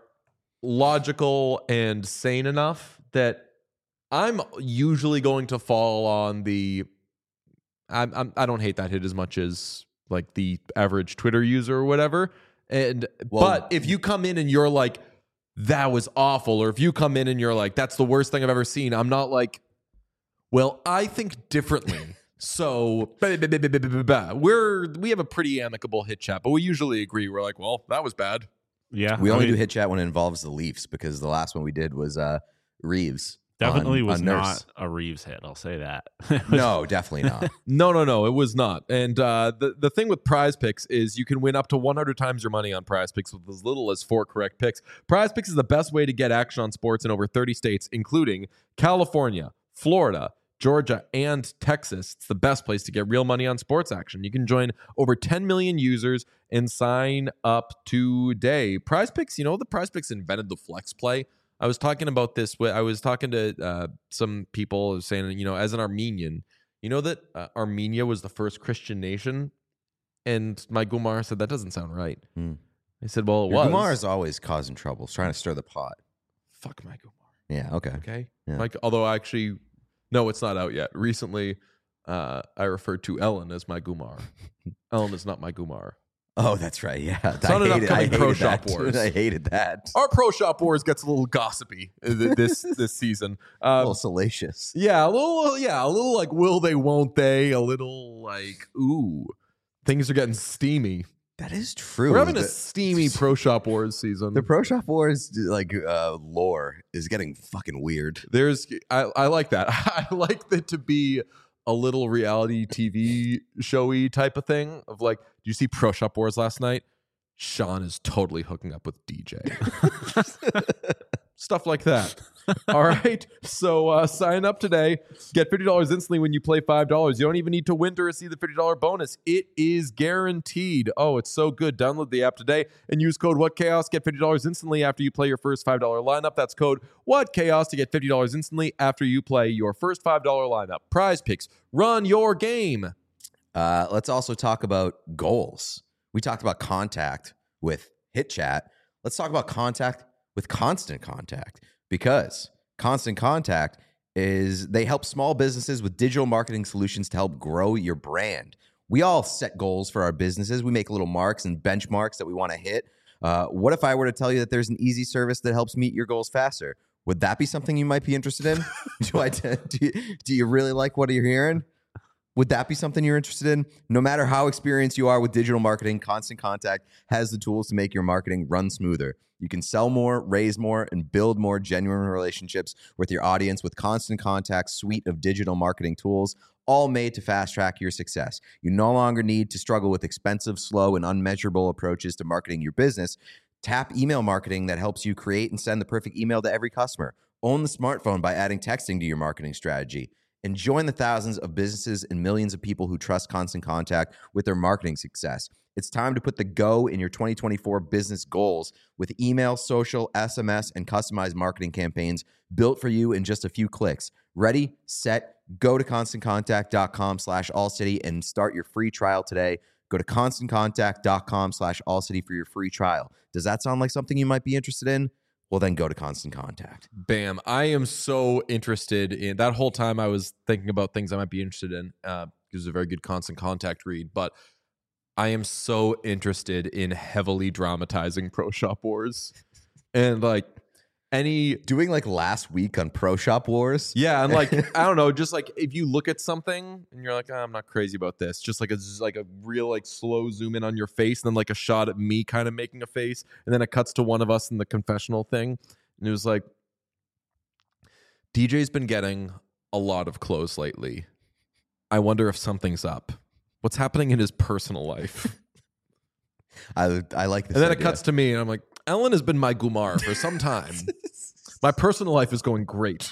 logical and sane enough that I'm usually going to fall on the. I'm, I'm I don't hate that hit as much as like the average Twitter user or whatever. And Well- but if you come in and you're like, that was awful, or if you come in and you're like, that's the worst thing I've ever seen, I'm not like, well, I think differently. So bah, bah, bah, bah, bah, bah, bah. we're we have a pretty amicable hit chat, but we usually agree. We're like, well, that was bad. Yeah. We I only mean, do hit chat when it involves the Leafs because the last one we did was uh Reeves. Definitely on- was on Nurse. not a Reeves hit. I'll say that. No, definitely not. No, no, no, it was not. And uh, the the thing with Prize Picks is you can win up to one hundred times your money on Prize Picks with as little as four correct picks. Prize Picks is the best way to get action on sports in over thirty states, including California, Florida, Georgia, and Texas. It's the best place to get real money on sports action. You can join over ten million users and sign up today. Prize Picks, you know, the Prize Picks invented the flex play. I was talking about this with, I was talking to uh, some people saying, you know, as an Armenian, you know that uh, Armenia was the first Christian nation? And my Gumar said, that doesn't sound right. Hmm. I said, well, it Your was. Gumar is always causing trouble, trying to stir the pot. Fuck my Gumar. Yeah, okay. Okay. Yeah. Like, although actually, no, it's not out yet. Recently, uh, I referred to Ellen as my Gumar. Ellen is not my Gumar. Oh, that's right. Yeah. It's not an hated, upcoming hated Pro that, Shop dude. Wars. I hated that. Our Pro Shop Wars gets a little gossipy th- this this season. A Um, little salacious. yeah, a little, yeah, a little like will they, won't they? A little like ooh, things are getting steamy. That is true. We're having a The- steamy Pro Shop Wars season. The Pro Shop Wars like uh, lore is getting fucking weird. There's, I, I like that. I like that to be a little reality T V showy type of thing of like, do you see Pro Shop Wars last night? Sean is totally hooking up with D J. Stuff like that. All right. So uh, sign up today. Get fifty dollars instantly when you play five dollars. You don't even need to win to receive the fifty dollars bonus. It is guaranteed. Oh, it's so good. Download the app today and use code WhatChaos. Get fifty dollars instantly after you play your first five dollars lineup. That's code WhatChaos to get fifty dollars instantly after you play your first five dollars lineup. Prize Picks. Run your game. Uh, let's also talk about goals. We talked about contact with HitChat. Let's talk about contact with Constant Contact, because Constant Contact is they help small businesses with digital marketing solutions to help grow your brand. We all set goals for our businesses. We make little marks and benchmarks that we want to hit. Uh, what if I were to tell you that there's an easy service that helps meet your goals faster? Would that be something you might be interested in? do I do you, do you really like what you're hearing? Would that be something you're interested in? No matter how experienced you are with digital marketing, Constant Contact has the tools to make your marketing run smoother. You can sell more, raise more, and build more genuine relationships with your audience with Constant Contact's suite of digital marketing tools, all made to fast track your success. You no longer need to struggle with expensive, slow, and unmeasurable approaches to marketing your business. Tap email marketing that helps you create and send the perfect email to every customer. Own the smartphone by adding texting to your marketing strategy. And join the thousands of businesses and millions of people who trust Constant Contact with their marketing success. It's time to put the go in your twenty twenty-four business goals with email, social, S M S, and customized marketing campaigns built for you in just a few clicks. Ready, set, go to ConstantContact.com slash AllCity and start your free trial today. Go to ConstantContact.com slash AllCity for your free trial. Does that sound like something you might be interested in? Well, then go to Constant Contact. Bam. I am so interested in that whole time I was thinking about things I might be interested in. Uh, it was a very good Constant Contact read, but I am so interested in heavily dramatizing Pro Shop Wars and like any Doing like last week on Pro Shop Wars. yeah, and like I don't know, just like if you look at something and you're like, oh, I'm not crazy about this, just like a just like a real like slow zoom in on your face, and then like a shot at me kind of making a face, and then it cuts to one of us in the confessional thing, and it was like, D J's been getting a lot of clothes lately. I wonder if something's up. What's happening in his personal life? I I like this. And then it idea. cuts to me, and I'm like, Ellen has been my Gumar for some time. My personal life is going great.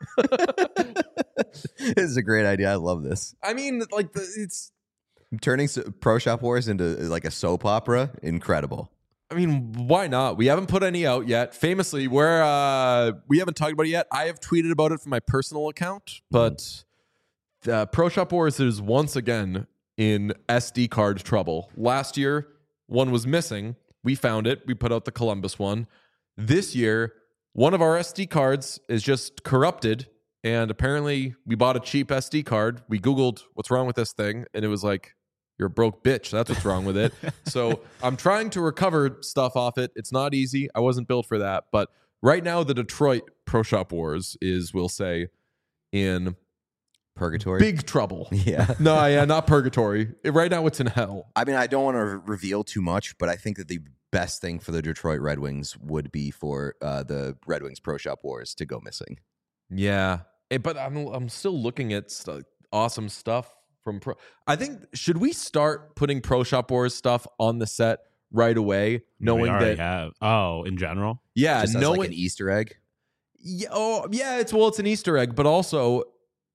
This is a great idea. I love this. I mean, like, the, it's, Turning so- Pro Shop Wars into like a soap opera, incredible. I mean, why not? We haven't put any out yet. Famously, we're, uh, we haven't talked about it yet. I have tweeted about it from my personal account, but uh, Pro Shop Wars is once again in S D card trouble. Last year, one was missing. We found it. We put out the Columbus one. This year, one of our S D cards is just corrupted, and apparently we bought a cheap S D card. We Googled what's wrong with this thing, and it was like, you're a broke bitch. That's what's wrong with it. So I'm trying to recover stuff off it. It's not easy. I wasn't built for that. But right now, the Detroit Pro Shop Wars is, we'll say, in Purgatory. big trouble. Yeah. No, yeah, not purgatory. It- right now, it's in hell. I mean, I don't want to reveal too much, but I think that the best thing for the Detroit Red Wings would be for uh, the Red Wings Pro Shop Wars to go missing. Yeah, Eh, but I'm I'm still looking at st- awesome stuff from Pro. I think should we start putting Pro Shop Wars stuff on the set right away, knowing we already that have. Oh, in general. yeah, Just as knowing like an Easter egg. yeah, oh yeah, it's well, it's an Easter egg, but also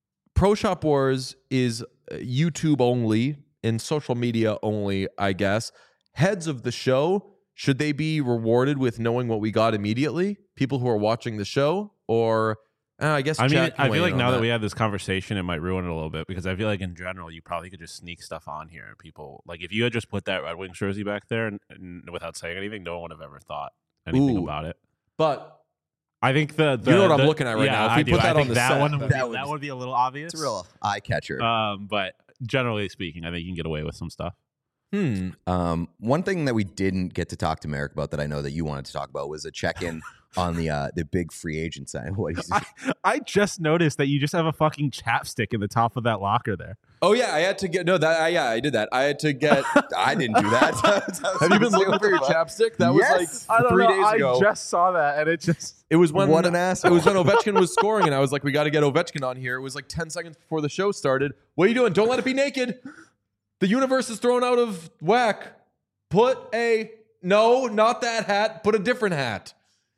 Pro Shop Wars is YouTube only and social media only, I guess. Heads of the show, should they be rewarded with knowing what we got immediately? People who are watching the show, or uh, I guess I mean, chat can I weigh feel like in now on that we had this conversation, it might ruin it a little bit because I feel like in general, you probably could just sneak stuff on here. And people, like, if you had just put that Red Wings jersey back there and, and without saying anything, no one would have ever thought anything Ooh. about it. But I think the, the you know what the, I'm looking at right yeah, now. If I we do. put I that think on the that set, one would that be, would- that would be a little obvious. It's a real eye catcher. Um, but generally speaking, I think you can get away with some stuff. hmm, Um, one thing that we didn't get to talk to Merrick about that I know that you wanted to talk about was a check-in on the uh, the big free agent sign. What he's, I, I just noticed that you just have a fucking chapstick in the top of that locker there. oh yeah, I had to get no that I, yeah I did that. I had to get. I didn't do that. Have you been looking for your chapstick? That Yes. was like three days ago. just saw that, and it just It was when What an It asshole. was when Ovechkin was scoring, and I was like, "We got to get Ovechkin on here." It was like ten seconds before the show started. What are you doing? Don't let it be naked. The universe is thrown out of whack. Put a no, not that hat. Put a different hat.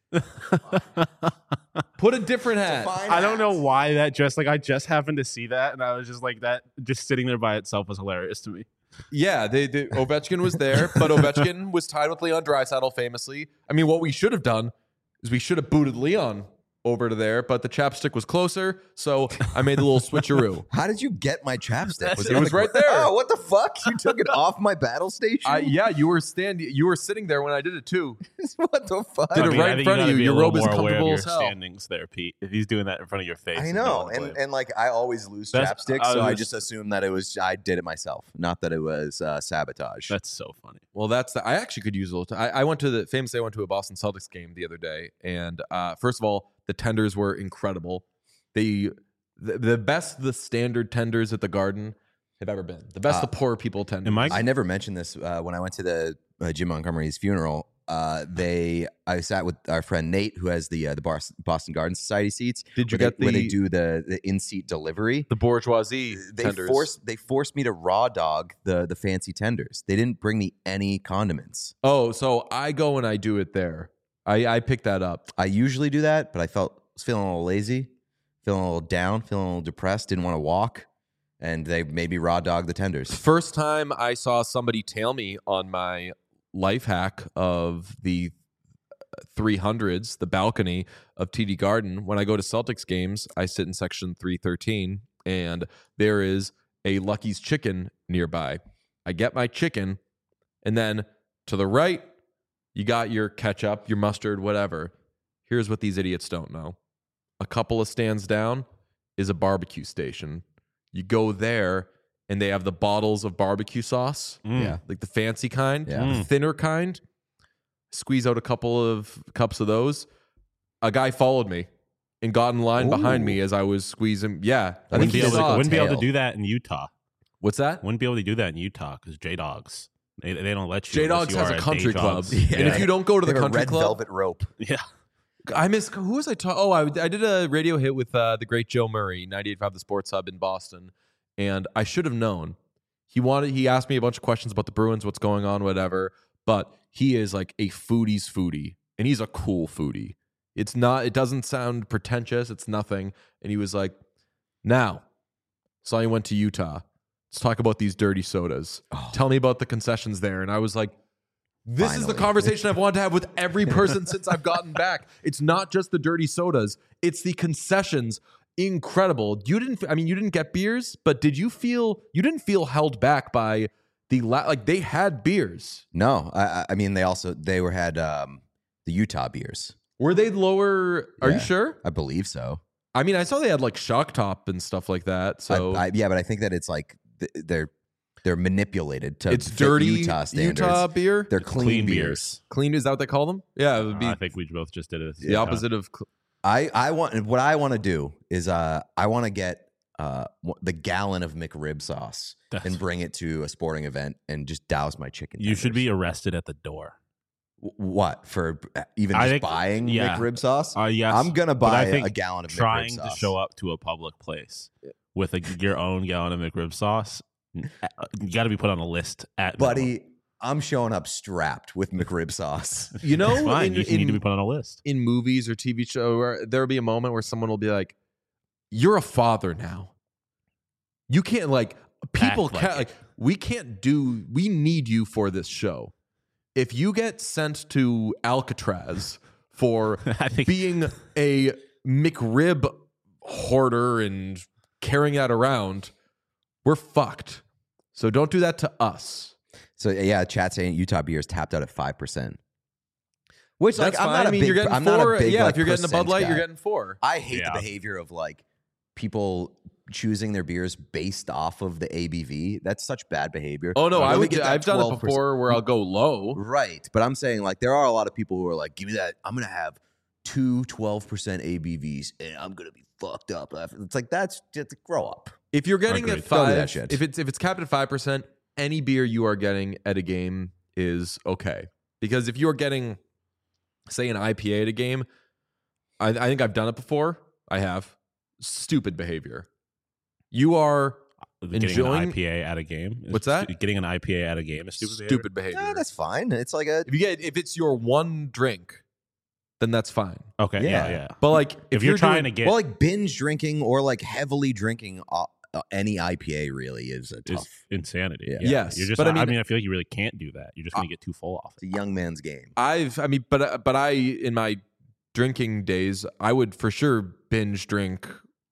Put a different hat. I don't know why that just like I just happened to see that, and I was just like that. Just sitting there by itself was hilarious to me. Yeah, they, they, Ovechkin was there, but Ovechkin was tied with Leon Draisaitl famously. I mean, what we should have done is we should have booted Leon over to there, but the chapstick was closer, so I made the little switcheroo. How did you get my chapstick? It on was the right gr- there. Oh, what the fuck? You took it off my battle station? I, yeah, you were standing. You were sitting there when I did it too. What the fuck? Did it I mean, right I in think front of gotta you. be a Your little robe is more aware of comfortable your as hell. standings there, Pete. If he's doing that in front of your face, I you know, wanna blame and, him. and like I always lose That's- chapstick, I so I was- just assumed that it was I did it myself, not that it was uh, sabotage. That's so funny. Well, that's the, I actually could use a little. T- I, I went to the famously. I went to a Boston Celtics game the other day, and uh, first of all, the tenders were incredible. They the, the best the standard tenders at the Garden have ever been. The best Uh, the poor people tenders. am I- I never mentioned this uh, when I went to the uh, Jim Montgomery's funeral. Uh, they I sat with our friend Nate, who has the uh, the Bos- Boston Garden Society seats. Did you where get they, where they the- do the the in seat delivery? the bourgeoisie They tenders? forced they forced me to raw dog the the fancy tenders. They didn't bring me any condiments. Oh, so I go and I do it there. I I pick that up. I usually do that, but I felt was feeling a little lazy, feeling a little down, feeling a little depressed, didn't want to walk, and they made me raw dog the tenders. First time I saw somebody tail me on my life hack of the three hundreds, the balcony of T D Garden. When I go to Celtics games, I sit in section three thirteen, and there is a Lucky's Chicken nearby. I get my chicken, and then to the right, you got your ketchup, your mustard, whatever. Here's what these idiots don't know. A couple of stands down is a barbecue station. You go there, and they have the bottles of barbecue sauce. Mm. Yeah. Like the fancy kind, Yeah. the Mm. thinner kind. Squeeze out a couple of cups of those. A guy followed me and got in line behind Ooh. me as I was squeezing. Yeah, I Wouldn't think be, he able to, saw. wouldn't be able to tail. do that in Utah. What's that? Wouldn't be able to do that in Utah because J Dogs. They, they don't let you. J unless Dogs you has are a at country Day club, Dogs. Yeah. and if you don't go to They the have a country red club, velvet rope. yeah. I miss who was I talking? Oh, I, I did a radio hit with uh, the great Joe Murray, ninety-eight point five The Sports Hub in Boston, and I should have known. He wanted. He asked me a bunch of questions about the Bruins, what's going on, whatever. But he is like a foodie's foodie, and he's a cool foodie. It's not. It doesn't sound pretentious. It's nothing. And he was like, "Now, saw you went to Utah. Let's talk about these dirty sodas. Oh. Tell me about the concessions there." And I was like, this is the Finally. conversation I've wanted to have with every person since I've gotten back. It's not just the dirty sodas. It's the concessions. Incredible. You didn't, I mean, you didn't get beers, but did you feel, you didn't feel held back by the, la- like they had beers. No, I, I- I mean they also they were had um, the Utah beers. Were they lower? Are Yeah. you sure? I believe so. I mean, I saw they had like Shock Top and stuff like that. So I, I, yeah, but I think that it's like th- they're they're manipulated to it's fit dirty Utah standards. Utah beer. They're It's clean, clean beers. beers. Clean, is that what they call them? Yeah, it would be Uh, I think we both just did it. the opposite of, cl- I I want what I want to do is uh I want to get uh w- the gallon of McRib sauce That's- and bring it to a sporting event and just douse my chicken. You should be tenders. arrested at the door. W- what for uh, even I just think- buying yeah. McRib sauce? Uh, yes, I'm gonna but I buy think a gallon of trying McRib to sauce. show up to a public place with a, your own gallon of McRib sauce. uh, You got to be put on a list at minimum. buddy. I'm showing up strapped with McRib sauce. you know, It's fine. in- you just need to in- be put on a list. in movies or T V show where there'll be a moment where someone will be like, "You're a father now. You can't like people Act like can't it. like we can't do. We need you for this show. If you get sent to Alcatraz for I think being a McRib hoarder and carrying that around, we're fucked. So don't do that to us. So yeah, chat saying Utah beers tapped out at five percent. Which like That's I'm fine. not a I mean, big, you're getting I'm four. not a big yeah, like, if you're getting a Bud percent Light, guy. you're getting four. I hate Yeah. the behavior of like people choosing their beers based off of the A B V. That's such bad behavior. Oh no, Let I me would. get that I've done it twelve percent. before where I'll go low. Right. But I'm saying like there are a lot of people who are like, give me that. I'm going to have two twelve percent A B Vs and I'm going to be fucked up. It's like, that's just grow up. If you're getting Agreed. at Don't do that five, shit. if it's if it's capped at five percent, any beer you are getting at a game is okay. Because if you are getting, say, an I P A at a game, I, I think I've done it before. I have. Stupid behavior. You are getting enjoying- an I P A at a game. is What's that? stu- Getting an I P A at a game is stupid. stupid behavior? behavior. Yeah, that's fine. It's like a, if you get if it's your one drink, then that's fine. Okay. Yeah. Yeah. Yeah. But like if, If, you're, trying doing, to get well, like binge drinking or like heavily drinking uh, uh, any I P A really is a is tough. insanity. Yeah. Yeah. Yes, You're just. but I I mean, mean- I feel like you really can't do that. You're just gonna get too full off. It's a young man's game. I've I mean, but but I in my drinking days, I would for sure binge drink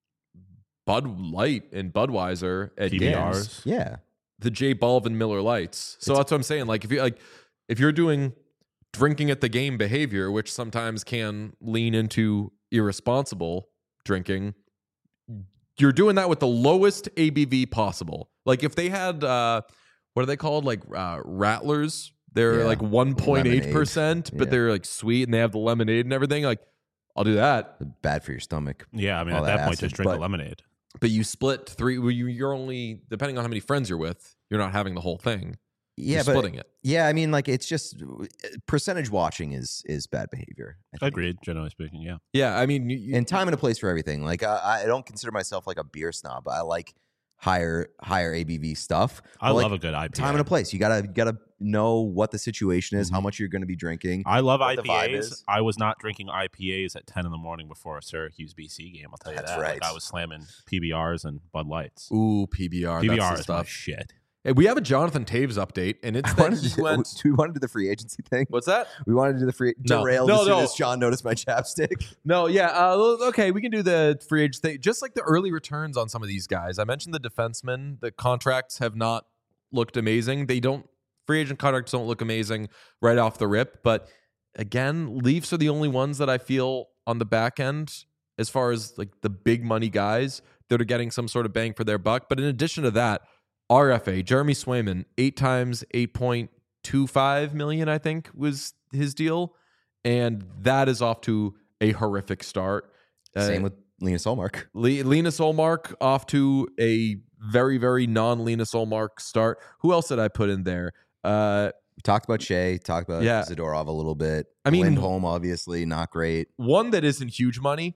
Bud Light and Budweiser at P B Rs. games. Yeah. The J Balvin Miller Lights. So that's what I'm saying. Like if you like if you're doing drinking at the game behavior, which sometimes can lean into irresponsible drinking, you're doing that with the lowest A B V possible. Like if they had uh what are they called? Like uh Rattlers. They're Yeah. like one point eight percent, Lemonade. but Yeah. they're like sweet and they have the lemonade and everything. Like I'll do that. Bad for your stomach. Yeah. I mean, All at that that point, acid, just drink but- the lemonade. But you split three well, you you're only depending on how many friends you're with, you're not having the whole thing. Yeah, You're but splitting it. yeah, I mean, like it's just percentage watching is is bad behavior. I think. Agreed. Generally speaking, yeah. Yeah, I mean, you, you- And time and a place for everything. Like I, I don't consider myself like a beer snob. I like higher higher A B V stuff. I But, like, love a good I P A. time and a place. You gotta you gotta know what the situation is, how Mhm. much you're going to be drinking. I love what the vibe I P As. is. I was not drinking I P As at ten in the morning before a Syracuse B C game. I'll tell you That's that. Like, right. I was slamming P B Rs and Bud Lights. ooh, P B R. P B that's R the is my stuff. shit. Hey, we have a Jonathan Taves update, and it's I that wanted he to, went. do we want to do the free agency thing? What's that? We wanted to do the free No. derailed No, as soon no. as John noticed my chapstick. No, yeah. Uh, okay, we can do the free agent thing. Just like the early returns on some of these guys. I mentioned the defensemen. The contracts have not looked amazing. They don't. Free agent contracts don't look amazing right off the rip. But again, Leafs are the only ones that I feel on the back end, as far as like the big money guys that are getting some sort of bang for their buck. But in addition to that, R F A, Jeremy Swayman, eight times eight point two five million, I think was his deal. And that is off to a horrific start. Uh, Same with Lena Solmark. Le- Lena Solmark off to a very, very non-Lena Solmark start. Who else did I put in there? Uh, We talked about Shea, talked about Yeah. Zadorov a little bit. I mean- Lindholm, obviously, not great. one that isn't huge money,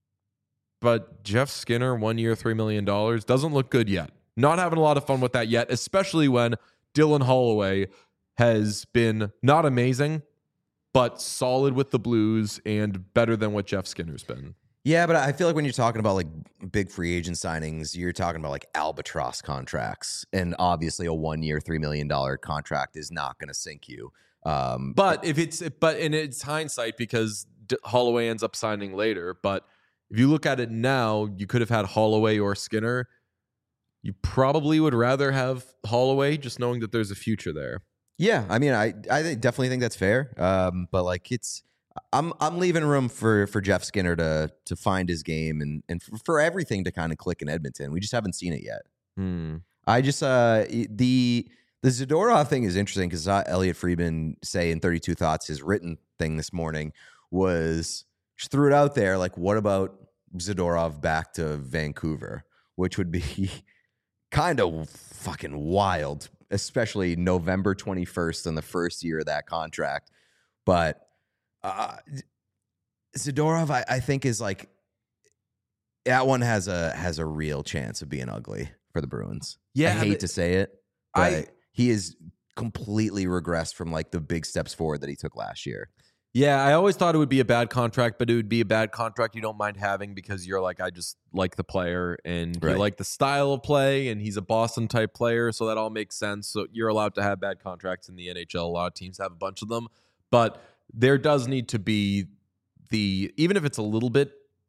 but Jeff Skinner, one year, three million dollars, doesn't look good yet. Not having a lot of fun with that yet, especially when Dylan Holloway has been not amazing, but solid with the Blues and better than what Jeff Skinner's been. Yeah, but I feel like when you're talking about like big free agent signings, you're talking about like albatross contracts, and obviously a one-year, three million dollar contract is not going to sink you. Um, But if it's but and it's hindsight because D- Holloway ends up signing later. But if you look at it now, you could have had Holloway or Skinner. You probably would rather have Holloway, just knowing that there's a future there. yeah, I mean, I I think- definitely think that's fair. Um, but like it's. I'm I'm leaving room for for Jeff Skinner to to find his game and and for, for everything to kind of click in Edmonton. We just haven't seen it yet. Hmm. I just uh the the Zadorov thing is interesting because uh, Elliot Friedman say in thirty-two Thoughts, his written thing this morning was just threw it out there like, what about Zadorov back to Vancouver, which would be kind of fucking wild, especially November twenty-first in the first year of that contract. But uh, Zadorov, I, I think is like that one has a has a real chance of being ugly for the Bruins. Yeah, I hate but to say it, but I- he is completely regressed from like the big steps forward that he took last year. Yeah, I always thought it would be a bad contract, but it would be a bad contract you don't mind having because you're like, I just like the player and Right. you like the style of play, and he's a Boston type player, so that all makes sense. So you're allowed to have bad contracts in the N H L. A lot of teams have a bunch of them, but there does need to be the, even if it's a little bit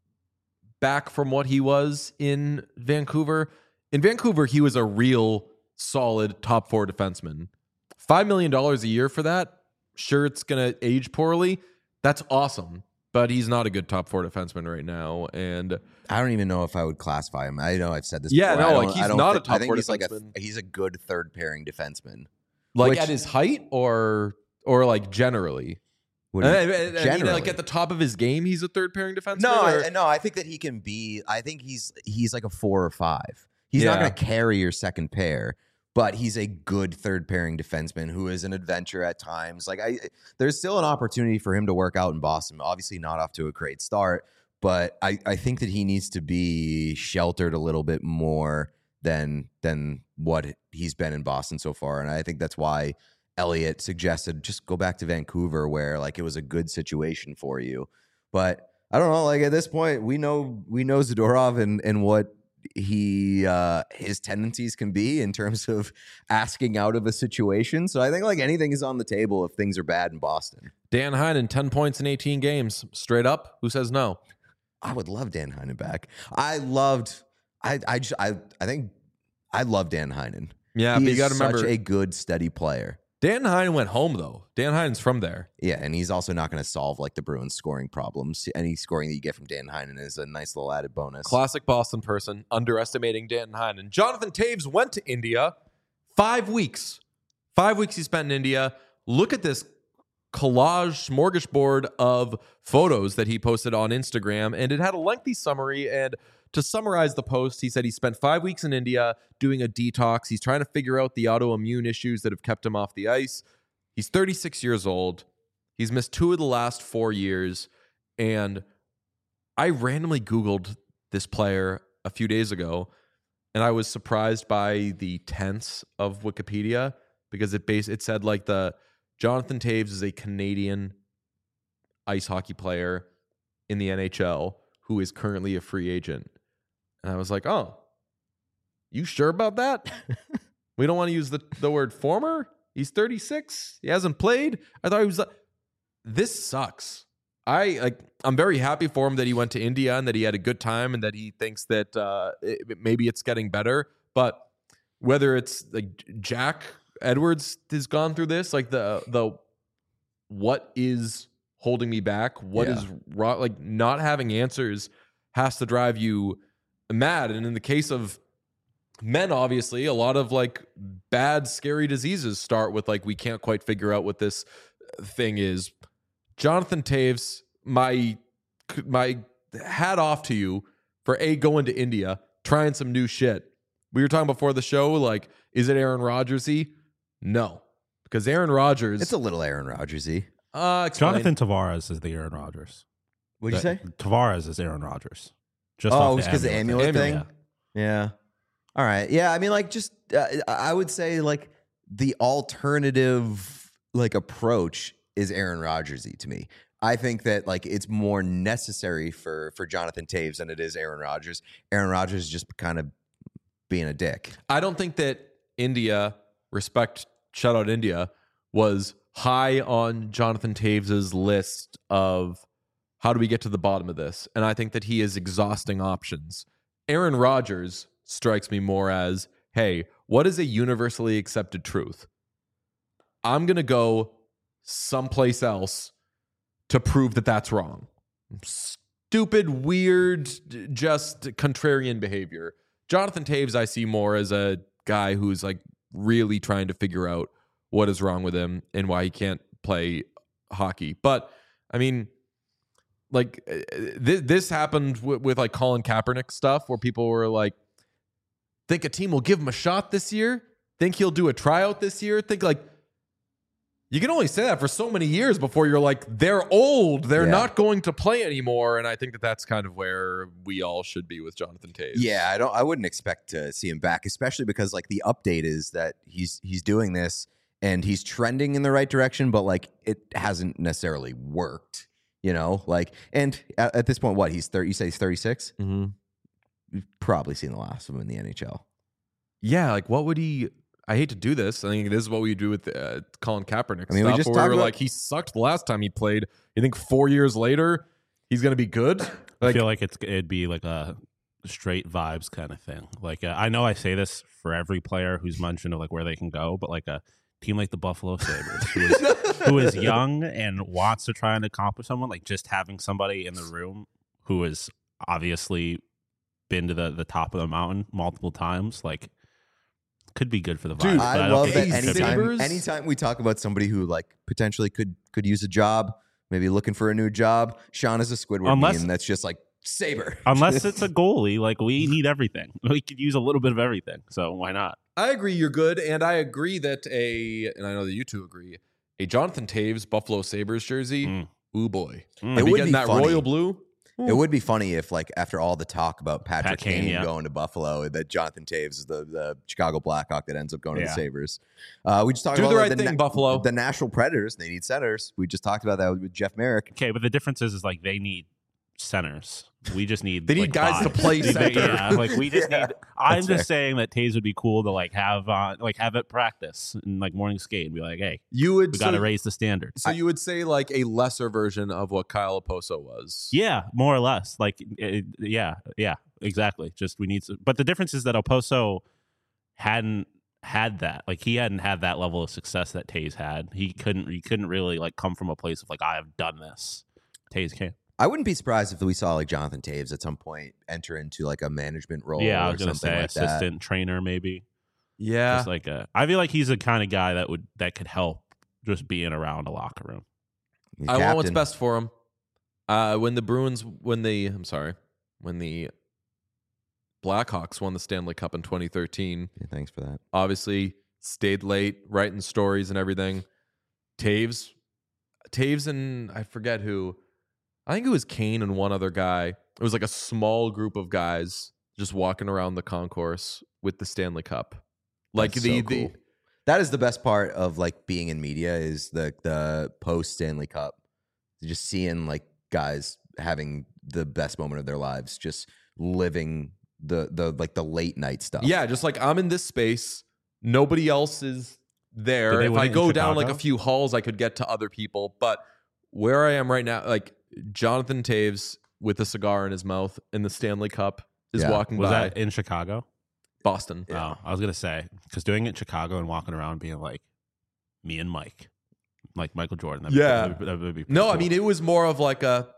back from what he was in Vancouver. In Vancouver, he was a real solid top four defenseman. Five million dollars a year for that. Sure, it's going to age poorly. That's awesome. But he's not a good top four defenseman right now. And I don't even know if I would classify him. I know I've said this Yeah, before. no, I like, don't- he's I don't not a thi- top I think four he's like a defenseman. he's a good third pairing defenseman. like Which- at his height or or like generally? What I, do I- you- I mean, generally. like at the top of his game, he's a third pairing defenseman? No, or- I, no, I think that he can be. I think he's he's like a four or five. He's not Yeah. going to carry your second pair, but he's a good third pairing defenseman who is an adventure at times. Like I, there's still an opportunity for him to work out in Boston. Obviously, not off to a great start, but I, I think that he needs to be sheltered a little bit more than than what he's been in Boston so far, and I think that's why Elliott suggested just go back to Vancouver, where like it was a good situation for you. But I don't know. Like at this point, we know we know Zadorov and and what he uh his tendencies can be in terms of asking out of a situation. So I think like anything is on the table if things are bad in Boston. Dan Heinen, ten points in eighteen games. Straight up. Who says no? I would love Dan Heinen back. I loved. I I just I I think I love Dan Heinen. Yeah, he but is you got to remember, such a good steady player. Dan Heinen went home, though. Dan Heinen's from there. Yeah, and he's also not going to solve like the Bruins scoring problems. Any scoring that you get from Dan Heinen is a nice little added bonus. Classic Boston person, underestimating Dan Heinen. Jonathan Taves went to India. Five weeks. Five weeks he spent in India. Look at this collage smorgasbord of photos that he posted on Instagram, and it had a lengthy summary. And to summarize the post, he said he spent five weeks in India doing a detox. He's trying to figure out the autoimmune issues that have kept him off the ice. He's thirty-six years old. He's missed two of the last four years. And I randomly Googled this player a few days ago, and I was surprised by the tense of Wikipedia because it base it said like the Jonathan Taves is a Canadian ice hockey player in the N H L who is currently a free agent. And I was like, oh, you sure about that? We don't want to use the, the word former? He's thirty-six. He hasn't played. I thought he was. This sucks. I like. I'm very happy for him that he went to India and that he had a good time and that he thinks that uh, it, maybe it's getting better. But whether it's like Jack Edwards has gone through this, like the the what is holding me back? What Yeah. is wrong? Like not having answers has to drive you mad. And in the case of men, obviously, a lot of like bad, scary diseases start with like we can't quite figure out what this thing is. Jonathan Taves, my my hat off to you for a going to India, trying some new shit. We were talking before the show, like, is it Aaron Rodgers-y? No, because Aaron Rodgers. It's a little Aaron Rodgers-y. uh, explain. Jonathan Tavares is the Aaron Rodgers. What'd you say? That- Tavares is Aaron Rodgers. Just Oh, off it was because the amulet amulet thing. thing. Yeah. All right. Yeah. I mean, like, just uh, I would say like the alternative like approach is Aaron Rodgers-y to me. I think that like it's more necessary for for Jonathan Taves than it is Aaron Rodgers. Aaron Rodgers is just kind of being a dick. I don't think that India, respect, shout out India, was high on Jonathan Taves's list of how do we get to the bottom of this? And I think that he is exhausting options. Aaron Rodgers strikes me more as, hey, what is a universally accepted truth? I'm going to go someplace else to prove that that's wrong. Stupid, weird, just contrarian behavior. Jonathan Taves, I see more as a guy who's like really trying to figure out what is wrong with him and why he can't play hockey. But I mean, like th- this happened with, with like Colin Kaepernick stuff where people were like, think a team will give him a shot this year? Think he'll do a tryout this year? Think like, you can only say that for so many years before you're like, they're old. They're Yeah. not going to play anymore. And I think that that's kind of where we all should be with Jonathan Taves. Yeah, I don't. I wouldn't expect to see him back, especially because like the update is that he's he's doing this and he's trending in the right direction, but like it hasn't necessarily worked, you know, like, and at, at this point, what he's thirty, you say he's thirty-six. Mm-hmm. You've probably seen the last of him in the N H L. Yeah, like what would he? I hate to do this. I think this is what we do with uh, Colin Kaepernick. I mean, we stuff, just where talked we were about- like he sucked the last time he played. You think four years later he's gonna be good? I Like, feel like it's it'd be like a straight vibes kind of thing. Like uh, I know I say this for every player who's mentioned of like where they can go, but like a team like the Buffalo Sabres, who is, who is young and wants to try and accomplish someone, like just having somebody in the room who has obviously been to the, the top of the mountain multiple times, like could be good for the vibes. Dude, but I don't love think that it should be. anytime, Sabres- anytime we talk about somebody who like potentially could could use a job, maybe looking for a new job, Sean is a Squidward Unless- meme that's just like Saber. Unless it's a goalie, like we need everything. We could use a little bit of everything, so why not? I agree you're good, and I agree that a, and I know that you two agree, a Jonathan Taves Buffalo Sabres jersey, Mm. ooh boy. Mm. It Be would getting be that funny. royal blue. It would be funny if, like, after all the talk about Patrick Pat Kane, Kane yeah. going to Buffalo, that Jonathan Taves is the, the Chicago Blackhawk that ends up going to Yeah. the Sabres. Uh, we just talked Do about the like, right thing, na- Buffalo. The Nashville Predators, they need centers. We just talked about that with Jeff Merrick. Okay, but the difference is, is like they need centers. We just need They need like, guys to five. play They- center. Yeah, like we just Yeah, need. I'm that's just saying that Taves would be cool to like have uh, like have at practice and like morning skate and be like, hey, You would we got to so, raise the standards. so you would say like a lesser version of what Kyle Oposo was. Yeah, more or less. Like, it, yeah, yeah, exactly. Just we need to. But the difference is that Oposo hadn't had that. Like, he hadn't had that level of success that Taves had. He couldn't. He couldn't really like come from a place of like I have done this. Taves can. I wouldn't be surprised if we saw like Jonathan Taves at some point enter into like a management role Yeah, I or was gonna something say like that. assistant trainer maybe. Yeah. Just like a, I feel like he's the kind of guy that would that could help just being around a locker room. He's I want what's captain. best for him. Uh, when the Bruins, when the, I'm sorry, when the Blackhawks won the Stanley Cup in twenty thirteen, Yeah, thanks for that. obviously stayed late, writing stories and everything. Taves, Taves and I forget who, I think it was Kane and one other guy. It was like a small group of guys just walking around the concourse with the Stanley Cup. Like That's the, so the cool. That is the best part of like being in media is the the post Stanley Cup. Just seeing like guys having the best moment of their lives, just living the the like the late night stuff. yeah, just like I'm in this space, nobody else is there. Did they If win I it in go down like a Chicago? few halls, I could get to other people. But where I am right now, like Jonathan Taves with a cigar in his mouth in the Stanley Cup is Yeah. walking Was by that in Chicago? Boston. Yeah. Oh, I was gonna say because doing it in Chicago and walking around being like me and Mike, like Michael Jordan. That'd be- Yeah. that would, that would be pretty No, I cool. mean it was more of like a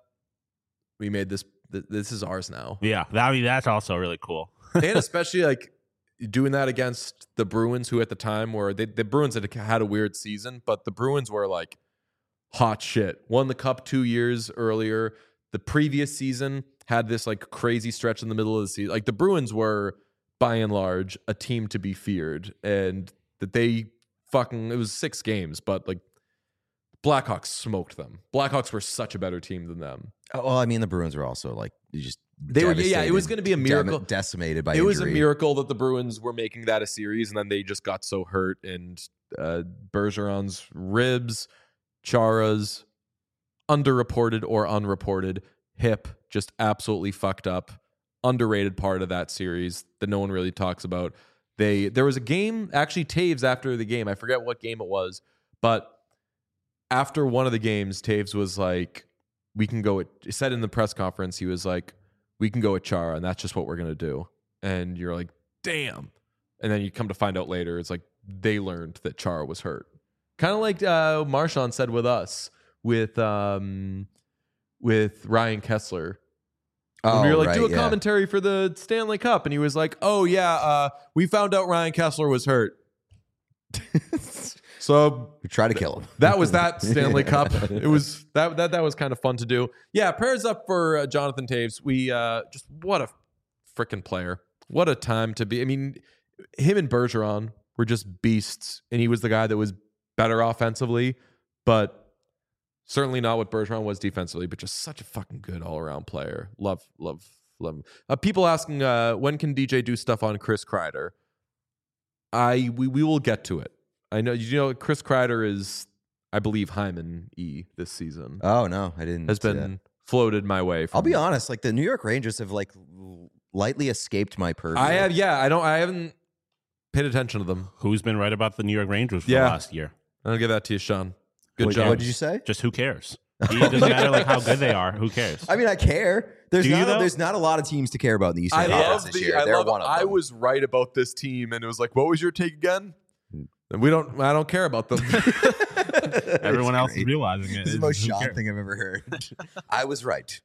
we made this. th- This is ours now, yeah, that, I mean that's also really cool. and especially like doing that against the Bruins, who at the time were they, the Bruins had had a weird season, but the Bruins were like hot shit. Won the cup two years earlier. The previous season had this like crazy stretch in the middle of the season. Like the Bruins were by and large a team to be feared, and that they fucking it was six games, but like Blackhawks smoked them. Blackhawks were such a better team than them. Oh, well, I mean, the Bruins were also like you just They were- yeah, it was devastated, gonna be a dem- miracle. decimated by It was a injury. miracle that the Bruins were making that a series, and then they just got so hurt. And uh, Bergeron's ribs, Chara's underreported or unreported hip just absolutely fucked up. Underrated part of that series that no one really talks about. They there was a game actually Taves after the game. I forget what game it was, but after one of the games, Taves was like, "We can go." At, he said in the press conference, he was like, "We can go at Chara, and that's just what we're gonna do." And you're like, "Damn!" And then you come to find out later, it's like they learned that Chara was hurt. Kind of like uh, Marchand said with us, with um, with Ryan Kessler. When Oh, we were like, right, do a yeah. commentary for the Stanley Cup, and he was like, "Oh yeah, uh, we found out Ryan Kessler was hurt." So We try to kill him. that was that Stanley Cup. It was that that that was kind of fun to do. Yeah, prayers up for uh, Jonathan Taves. We uh, just what a freaking player. What a time to be. I mean, him and Bergeron were just beasts, and he was the guy that was better offensively, but certainly not what Bergeron was defensively. But just such a fucking good all around player. Love, love, love him. Uh, people asking uh, when can D J do stuff on Chris Kreider? I we we will get to it. I know you know Chris Kreider is, I believe, Hyman E this season. Oh no, I didn't. Has see been that. floated my way. From, I'll be honest. Like the New York Rangers have like lightly escaped my purview. I have, yeah. I don't. I haven't paid attention to them. Who's been right about the New York Rangers for Yeah. the last year? I'll give that to you, Sean. Good what, job. What did you say? Just who cares? It doesn't matter like how good they are. Who cares? I mean, I care. There's Do you, not. A, though? there's not a lot of teams to care about in the Eastern I Conference love this the. year. I They're love. one of I them. was right about this team, and it was like, what was your take again? And we don't. I don't care about them. Everyone else great. is realizing it. This is the It's- most who Sean cares? thing I've ever heard. I was right.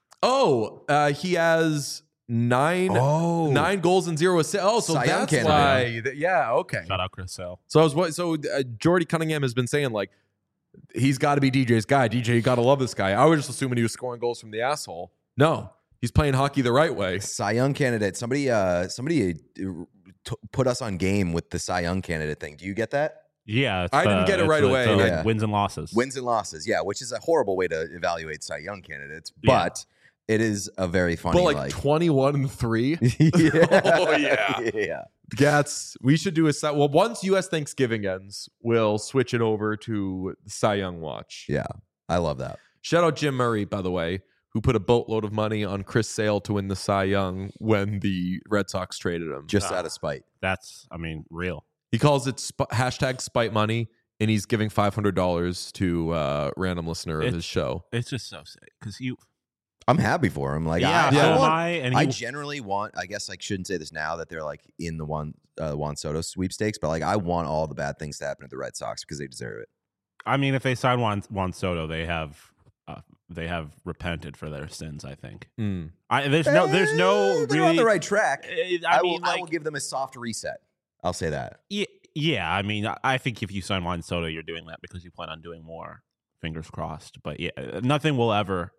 oh, uh, he has nine. Oh, Nine goals and zero assists. Oh, so Cy Young that's candidate. why. th- yeah. Okay. Shout out Chris Sale. So I was. wa- So uh, Jordy Cunningham has been saying like, he's got to be D J's guy. D J, you got to love this guy. I was just assuming he was scoring goals from the asshole. No, he's playing hockey the right way. Cy Young candidate. Somebody, uh, somebody uh, t- put us on game with the Cy Young candidate thing. Do you get that? Yeah, it's I didn't the- get it it's right the- away. the, like, Yeah. wins and losses. Wins and losses, yeah, which is a horrible way to evaluate Cy Young candidates, Yeah. but it is a very funny. But like, like twenty-one and three. yeah. Oh, yeah. yeah. Gats, we should do a Cy- well. Once U S Thanksgiving ends, we'll switch it over to the Cy Young watch. Yeah, I love that. Shout out Jim Murray, by the way, who put a boatload of money on Chris Sale to win the Cy Young when the Red Sox traded him. Just Ah. out of spite. That's, I mean, real. He calls it sp- hashtag spite money, and he's giving five hundred dollars to a random listener of It- his show. It's just so sick because you. I'm happy for him. Like, Yeah, I, so I, am want, I. And I he, generally want. I guess I shouldn't say this now that they're like in the Juan uh, Juan Soto sweepstakes, but like I want all the bad things to happen to the Red Sox because they deserve it. I mean, if they sign Juan, Juan Soto, they have uh, they have repented for their sins. I think. Mm. I, there's no, there's no Eh, they're really. on the right track. I, I, mean, will. I like, will give them a soft reset. I'll say that. yeah, yeah. I mean, I- I think if you sign Juan Soto, you're doing that because you plan on doing more. Fingers crossed. But yeah, nothing will ever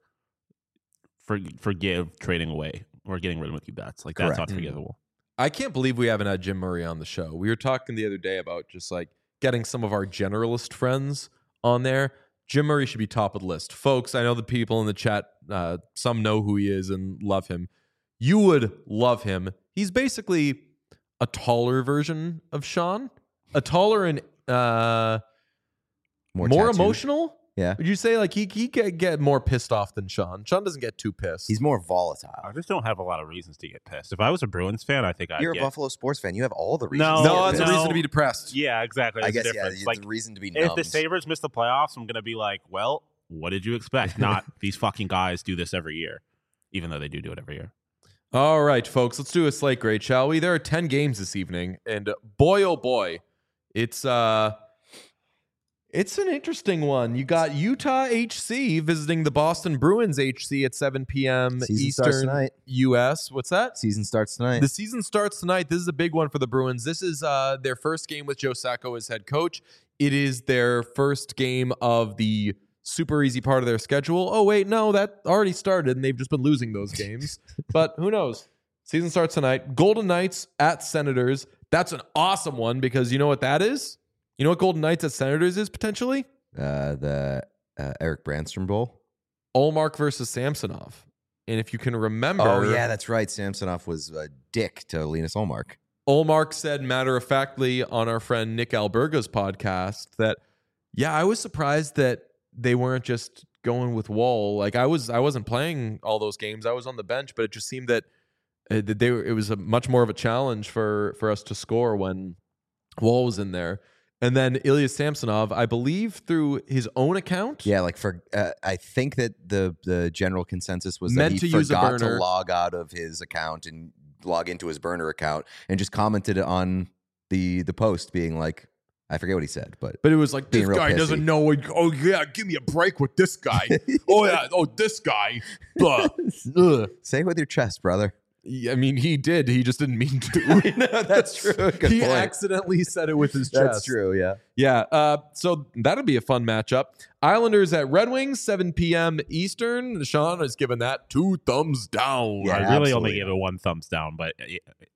for, forgive trading away or getting rid of Mookie Betts. Like that's Correct. unforgivable. I can't believe we haven't had Jim Murray on the show. We were talking the other day about just like getting some of our generalist friends on there. Jim Murray should be top of the list. Folks, I know the people in the chat, uh, some know who he is and love him. You would love him. He's basically a taller version of Sean, a taller and uh, More, more, tattooed. emotional. Yeah. Would you say like he he get, get more pissed off than Sean? Sean doesn't get too pissed. He's more volatile. I just don't have a lot of reasons to get pissed. If I was a Bruins fan, I think I'd You're get. a Buffalo sports fan. You have all the reasons. No, to no, get that's a pissed. reason to be depressed. Yeah, exactly. I There's a guess yeah. difference. It's Like the reason to be if numbed. the Sabres miss the playoffs, I'm gonna be like, well, what did you expect? Not these fucking guys do this every year, even though they do do it every year. All right, folks, let's do a slate grade, shall we? There are ten games this evening, and boy, oh boy, it's uh, it's an interesting one. You got Utah H C visiting the Boston Bruins H C at seven p.m. Season starts Eastern tonight. U S. What's that? Season starts tonight. The season starts tonight. This is a big one for the Bruins. This is uh, their first game with Joe Sacco as head coach. It is their first game of the super easy part of their schedule. Oh, wait, no, that already started, and they've just been losing those games. But who knows? Season starts tonight. Golden Knights at Senators. That's an awesome one because you know what that is? You know what Golden Knights at Senators is potentially? uh, the uh, Eric Brandstrom Bowl. Olmark versus Samsonov. And if you can remember, Oh yeah, that's right. Samsonov was a dick to Linus Olmark. Olmark said matter-of-factly on our friend Nick Alberga's podcast that, yeah, I was surprised that they weren't just going with Wall. Like I was, I wasn't playing all those games. I was on the bench, but it just seemed that, uh, that they were, it was a much more of a challenge for for us to score when Wall was in there. And then Ilya Samsonov, I believe through his own account, Yeah, like for uh, I think that the the general consensus was Meant that he to use a forgot to burner. log out of his account and log into his burner account and just commented on the the post being like, I forget what he said, but but it was like Being this real guy pissy. doesn't know. What, oh yeah, give me a break with this guy. oh yeah, oh this guy. Ugh. Ugh. say it with your chest, brother. I mean, he did. He just didn't mean to. No, that's true. Good he point. accidentally said it with his chest. That's true. Yeah. Yeah. Uh, so that'll be a fun matchup. Islanders at Red Wings, seven p.m. Eastern. Sean has given that two thumbs down. Yeah, I really absolutely. only gave it one thumbs down, but uh,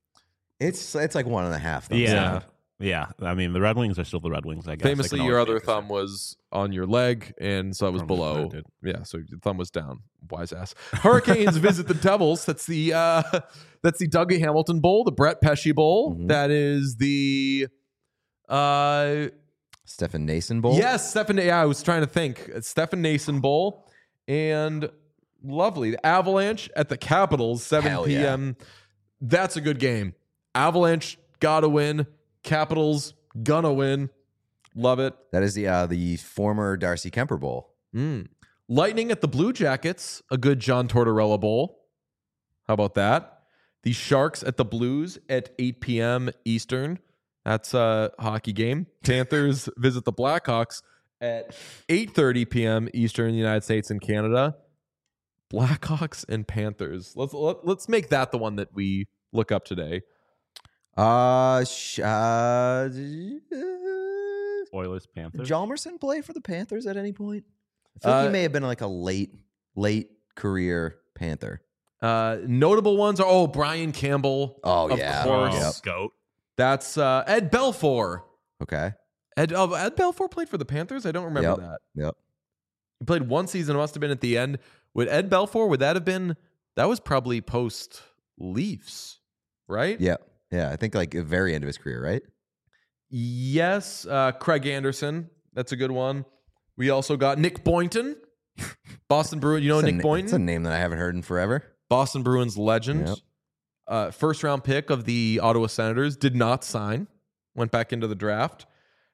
It's it's like one and a half. thumbs yeah, down. yeah. I mean, the Red Wings are still the Red Wings. I guess. I Famously, can your always other be thumb was on your leg, and so it was Thumb was below. planted. Yeah, so your thumb was down. Wise ass. Hurricanes visit the Devils. That's the uh, that's the Dougie Hamilton Bowl, the Brett Pesci Bowl. Mhm. That is the Uh, Stefan Nason Bowl. yes, Stephen. Yeah, I was trying to think. Stephen Nason Bowl and lovely the Avalanche at the Capitals, seven Hell yeah. p.m. That's a good game. Avalanche gotta win. Capitals gonna win. Love it. That is the uh, the former Darcy Kemper Bowl. Mm. Lightning at the Blue Jackets, a good John Tortorella Bowl. How about that? The Sharks at the Blues at eight p.m. Eastern. That's a hockey game. Panthers visit the Blackhawks at eight thirty p.m. Eastern in the United States and Canada. Blackhawks and Panthers. Let's let, let's make that the one that we look up today. Uh, sh- uh, Oilers, Panthers. Jalmerson play for the Panthers at any point? I feel like Uh, he may have been like a late, late career Panther. Uh, notable ones are oh Brian Campbell. Oh, of yeah. course. Yep. Goat. That's uh, Ed Belfour. Okay. Ed oh, Ed Belfour played for the Panthers. I don't remember Yep. that. Yep. He played one season. It must have been at the end. Would Ed Belfour? Would that have been? That was probably post Leafs, right? Yeah. Yeah. I think like the very end of his career, right? Yes. Uh, Craig Anderson. That's a good one. We also got Nick Boynton, Boston Bruins. You know It's a Nick na- Boynton, It's a name that I haven't heard in forever. Boston Bruins legend. Yep. Uh, first round pick of the Ottawa Senators. Did not sign. Went back into the draft.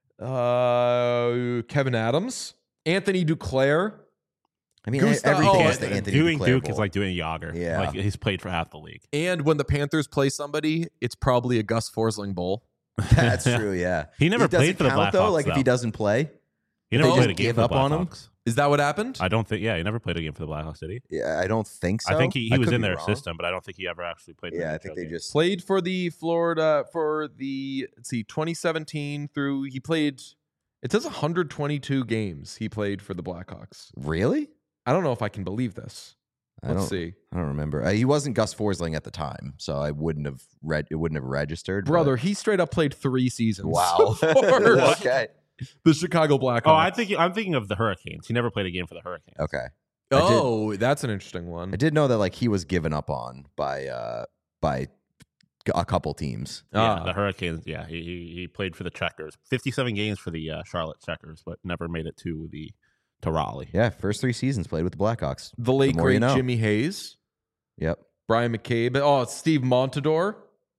Uh, Kevin Adams, Anthony Duclair. I mean, Gustav- everything oh, is the Anthony doing Duclair Duke Bowl. is like doing Yager. Yeah. Like he's played for half the league. And when the Panthers play somebody, it's probably a Gus Forsling Bowl. That's true. Yeah. He never It doesn't played for the count, Blackhawks, though. Like if though. he doesn't play, He they never just played a game give for the up on him? Blackhawks. Is that what happened? I don't think. Yeah, he never played a game for the Blackhawks, did he? yeah, I don't think so. I think he, he I was could in be their wrong. system, but I don't think he ever actually played. in Yeah, an I N H L think they game. just Played for the Florida for the let's see, twenty seventeen through. He played. It says one hundred twenty-two games he played for the Blackhawks. really. I don't know if I can believe this. I Let's don't. see, I don't remember. Uh, he wasn't Gus Forsling at the time, so I wouldn't have read. It wouldn't have registered. but- brother. He straight up played three seasons. Wow. for okay. the Chicago Blackhawks. Oh, I think I'm thinking of the Hurricanes. He never played a game for the Hurricanes. Okay. I did- Oh, that's an interesting one. I did know that like he was given up on by uh by a couple teams. Yeah, Ah. the Hurricanes. Yeah, he, he he played for the Checkers. fifty-seven games for the uh, Charlotte Checkers, but never made it to the to Raleigh. Yeah, first three seasons played with the Blackhawks. The late The more great you know. Jimmy Hayes, Yep. Brian McCabe. Oh, it's Steve Montador.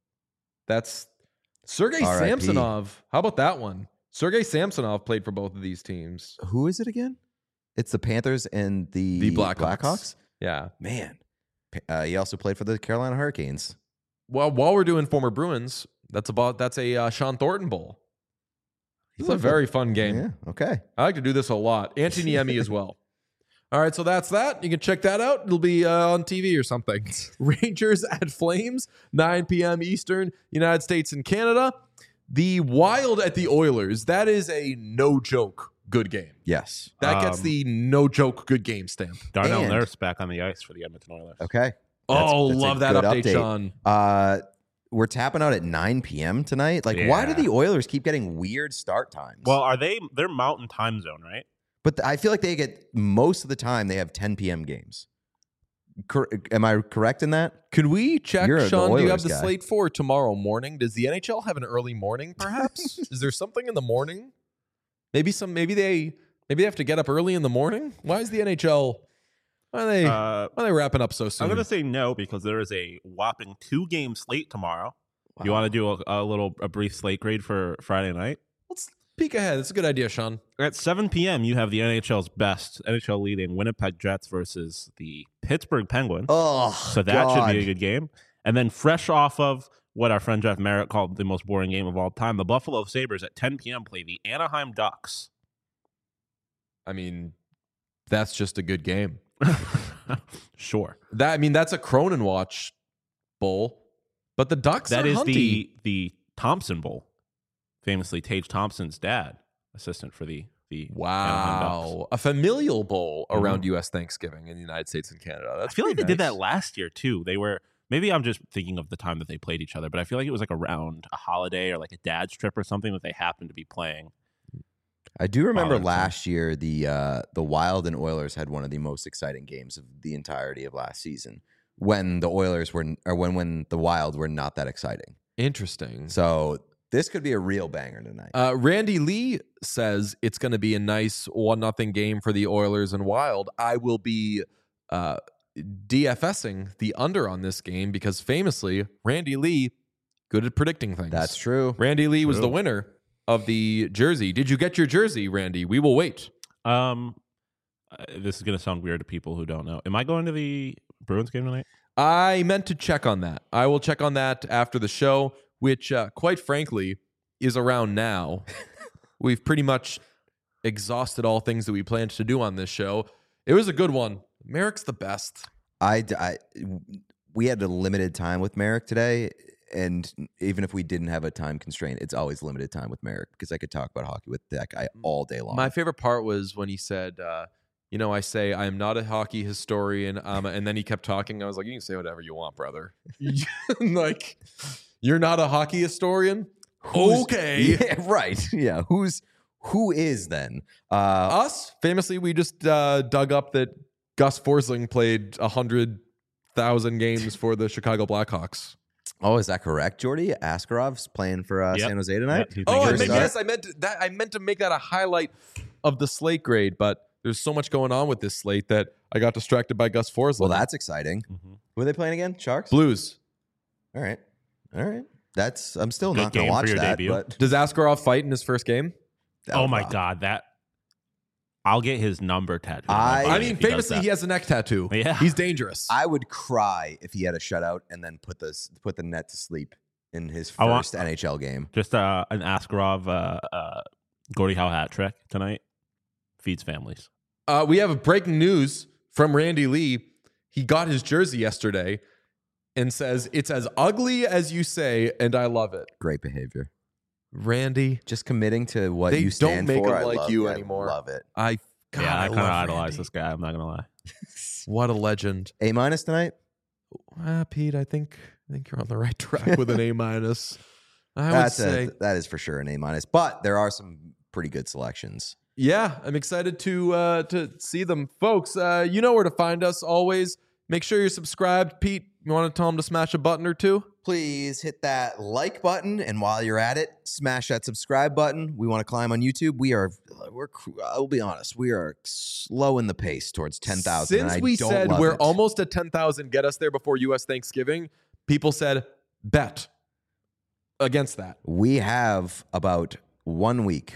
That's Sergei R I P. Samsonov. How about that one? Sergei Samsonov played for both of these teams. Who is it again? It's the Panthers and the, The Blackhawks. Blackhawks? Yeah. Man. Uh, he also played for the Carolina Hurricanes. Well, while we're doing former Bruins, that's about that's a uh, Sean Thornton Bowl. This is a played for- very fun game. Yeah. Okay. I like to do this a lot. Anthony Emmy as well. All right, so that's that. You can check that out. It'll be uh, on T V or something. Rangers at Flames, nine p.m. Eastern, United States and Canada. The Wild at the Oilers. That is a no joke good game. Yes. That gets Um, the no joke good game stamp. Darnell And- Nurse back on the ice for the Edmonton Oilers. Okay. oh, that's a love that good update, update. Sean. Uh, we're tapping out at nine p.m. tonight. Like, why do Yeah. the Oilers keep getting weird start times? Well, are they? They're Mountain Time Zone, right? but th- I feel like they get most of the time they have ten p.m. games. Cor- am I correct in that? Can we check, You're the Sean? Do you have Oilers the guy. slate for tomorrow morning? Does the N H L have an early morning, perhaps? Is there something in the morning? Maybe some. Maybe they. Maybe they have to get up early in the morning. Why is the N H L? Why are they? Uh, why are they wrapping up so soon? I'm going to say no because there is a whopping two game slate tomorrow. You want to do a, a little a brief slate grade for Friday night? Let's peek ahead. It's a good idea, Sean. At seven p.m., you have the N H L's best N H L leading Winnipeg Jets versus the Pittsburgh Penguins. Oh, so that should be a good game. And then fresh off of what our friend Jeff Merritt called the most boring game of all time, the Buffalo Sabres at ten p.m. play the Anaheim Ducks. I mean, that's just a good game. Sure. That I mean, that's a Cronin watch bowl. But the Ducks That are is hunty. the the Thompson Bowl. Famously Tage Thompson's dad, assistant for the the Anaheim Ducks. Wow, a familial bowl around Mhm. U S Thanksgiving in the United States and Canada. That's I feel like they pretty did that nice. last year too. They were maybe I'm just thinking of the time that they played each other, but I feel like it was like around a holiday or like a dad's trip or something that they happened to be playing. I do remember Wow, last year the uh, the Wild and Oilers had one of the most exciting games of the entirety of last season when the Oilers were or when when the Wild were not that exciting. Interesting. So This could be a real banger tonight. Uh, Randy Lee says it's going to be a nice one nothing game for the Oilers and Wild. I will be uh, DFSing the under on this game because famously, Randy Lee, good at predicting things. That's true. Randy Lee was True. the winner of the jersey. Did you get your jersey, Randy? We will wait. Um, uh, this is gonna sound weird to people who don't know. Am I going to the Bruins game tonight? I meant to check on that. I will check on that after the show, which, uh, quite frankly, is around now. We've pretty much exhausted all things that we planned to do on this show. It was a good one. Merrick's the best. I, I, we had a limited time with Merrick today, and even if we didn't have a time constraint, it's always limited time with Merrick because I could talk about hockey with that guy all day long. My favorite part was when he said, uh, you know, I say, I am not a hockey historian. Um, and then he kept talking. I was like, you can say whatever you want, brother. Like, you're not a hockey historian? Who's- Okay. Yeah, right. Yeah. Who's who is then? Uh, Us, famously, we just uh, dug up that Gus Forsling played one hundred thousand games for the Chicago Blackhawks. oh, is that correct, Jordy? Askarov's playing for uh, Yep. San Jose tonight. Yep, he's Oh, I making Your meant, a star? yes, I meant to, that. I meant to make that a highlight of the slate grade, but there's so much going on with this slate that I got distracted by Gus Forsling. Well, that's exciting. Mhm. Who are they playing again? Sharks. Blues. All right. All right. That's. I'm still Good not going to game for watch your that. debut. But Does Askarov fight in his first game? that Oh would my rock. god, that I'll get his number tattooed. on my I- body I if mean, he does famously, that. he has a neck tattoo. Yeah. He's dangerous. I would cry if he had a shutout and then put the put the net to sleep in his I want- first N H L game. just uh, an Askarov uh, uh, Gordie Howe hat trick tonight. Feeds families. Uh, we have a breaking news from Randy Lee. He got his jersey yesterday and says, it's as ugly as you say, and I love it. Great behavior. Randy, Just committing to what They you stand don't make for. him I like love- you I anymore. Love it. I, God, yeah, I, I kind of love idolize Randy. this guy. I'm not gonna lie. What a legend. A minus tonight. Uh, Pete, I think I think you're on the right track with an A minus. I would That's say, a, that is for sure an A minus. But there are some pretty good selections. yeah, I'm excited to uh, to see them, folks. Uh, you know where to find us. Always make sure you're subscribed. Pete, you want to tell them to smash a button or two? Please hit that like button, and while you're at it, smash that subscribe button. We want to climb on YouTube. We are, we're. I'll be honest, we are slow in the pace towards ten thousand. Since we said we're almost at ten thousand, get us there before U S Thanksgiving, people said bet against that. we have about one week,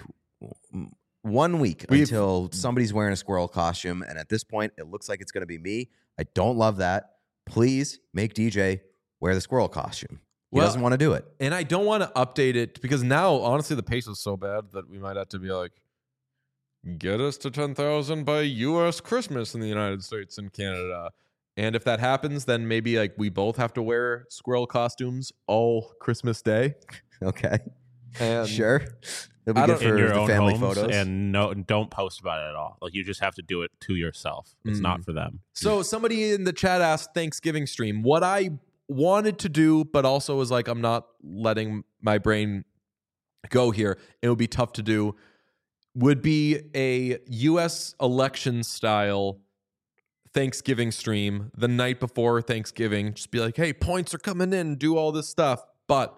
one week We've- until somebody's wearing a squirrel costume, and at this point, it looks like it's going to be me. I don't love that. Please make D J wear the squirrel costume. He Well, doesn't want to do it. And I don't want to update it because now, honestly, the pace is so bad that we might have to be like, get us to ten thousand by U S Christmas in the United States and Canada. And if that happens, then maybe like we both have to wear squirrel costumes all Christmas Day. Okay, And sure. It'll be I good don't- for In your the own family homes, photos. and no, don't post about it at all. Like you just have to do it to yourself. It's Mm. not for them. So somebody in the chat asked Thanksgiving stream what I wanted to do, but also was like, I'm not letting my brain go here. It would be tough to do. Would be a U S election style Thanksgiving stream the night before Thanksgiving. Just be like, hey, points are coming in, do all this stuff. But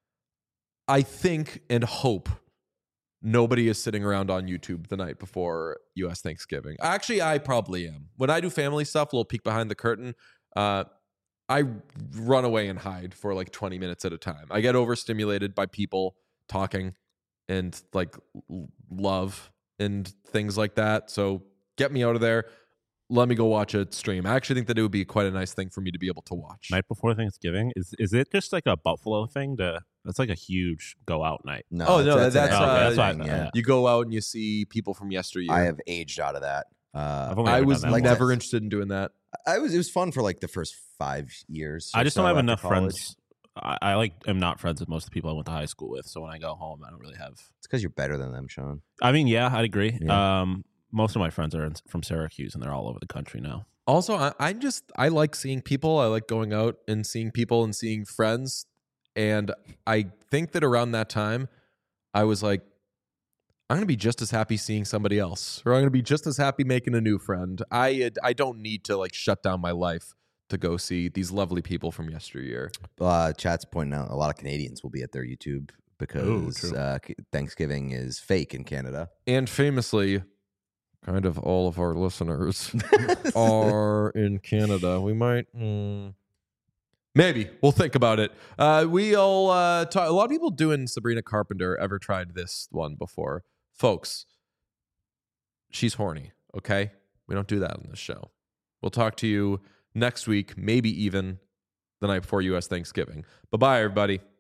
I think and hope nobody is sitting around on YouTube the night before U S Thanksgiving. Actually, I probably am. When I do family stuff, a little peek behind the curtain, uh, I run away and hide for like twenty minutes at a time. I get overstimulated by people talking and like l- love and things like that. So get me out of there. Let me go watch a stream. I actually think that it would be quite a nice thing for me to be able to watch. Night before Thanksgiving is is it just like a Buffalo thing? To that's like a huge go out night. no, Oh, no, an that's, everyday uh, that's thing, what- yeah. yeah. You go out and you see people from yesteryear. I have aged out of that. Uh, I've only I ever was done that like never once. interested in doing that. I was. It was fun for like the first five years. I or just so don't have after enough college. friends. I, I like am not friends with most of the people I went to high school with. So when I go home, I don't really have. It's because you're better than them, Sean. I mean, yeah, I'd agree. Yeah. Um, most of my friends are in, from Syracuse, and they're all over the country now. Also, I, I just I like seeing people. I like going out and seeing people and seeing friends. And I think that around that time, I was like, I'm gonna be just as happy seeing somebody else, or I'm gonna be just as happy making a new friend. I I don't need to like shut down my life to go see these lovely people from yesteryear. Uh, chat's pointing out a lot of Canadians will be at their YouTube because true. uh, Thanksgiving is fake in Canada. And famously, kind of all of our listeners are in Canada. We might, mm, maybe we'll think about it. Uh, we'll uh, talk. A lot of people doing Sabrina Carpenter ever tried this one before, folks. She's horny. Okay, we don't do that on this show. We'll talk to you next week, maybe even the night before U S Thanksgiving. Bye bye, everybody.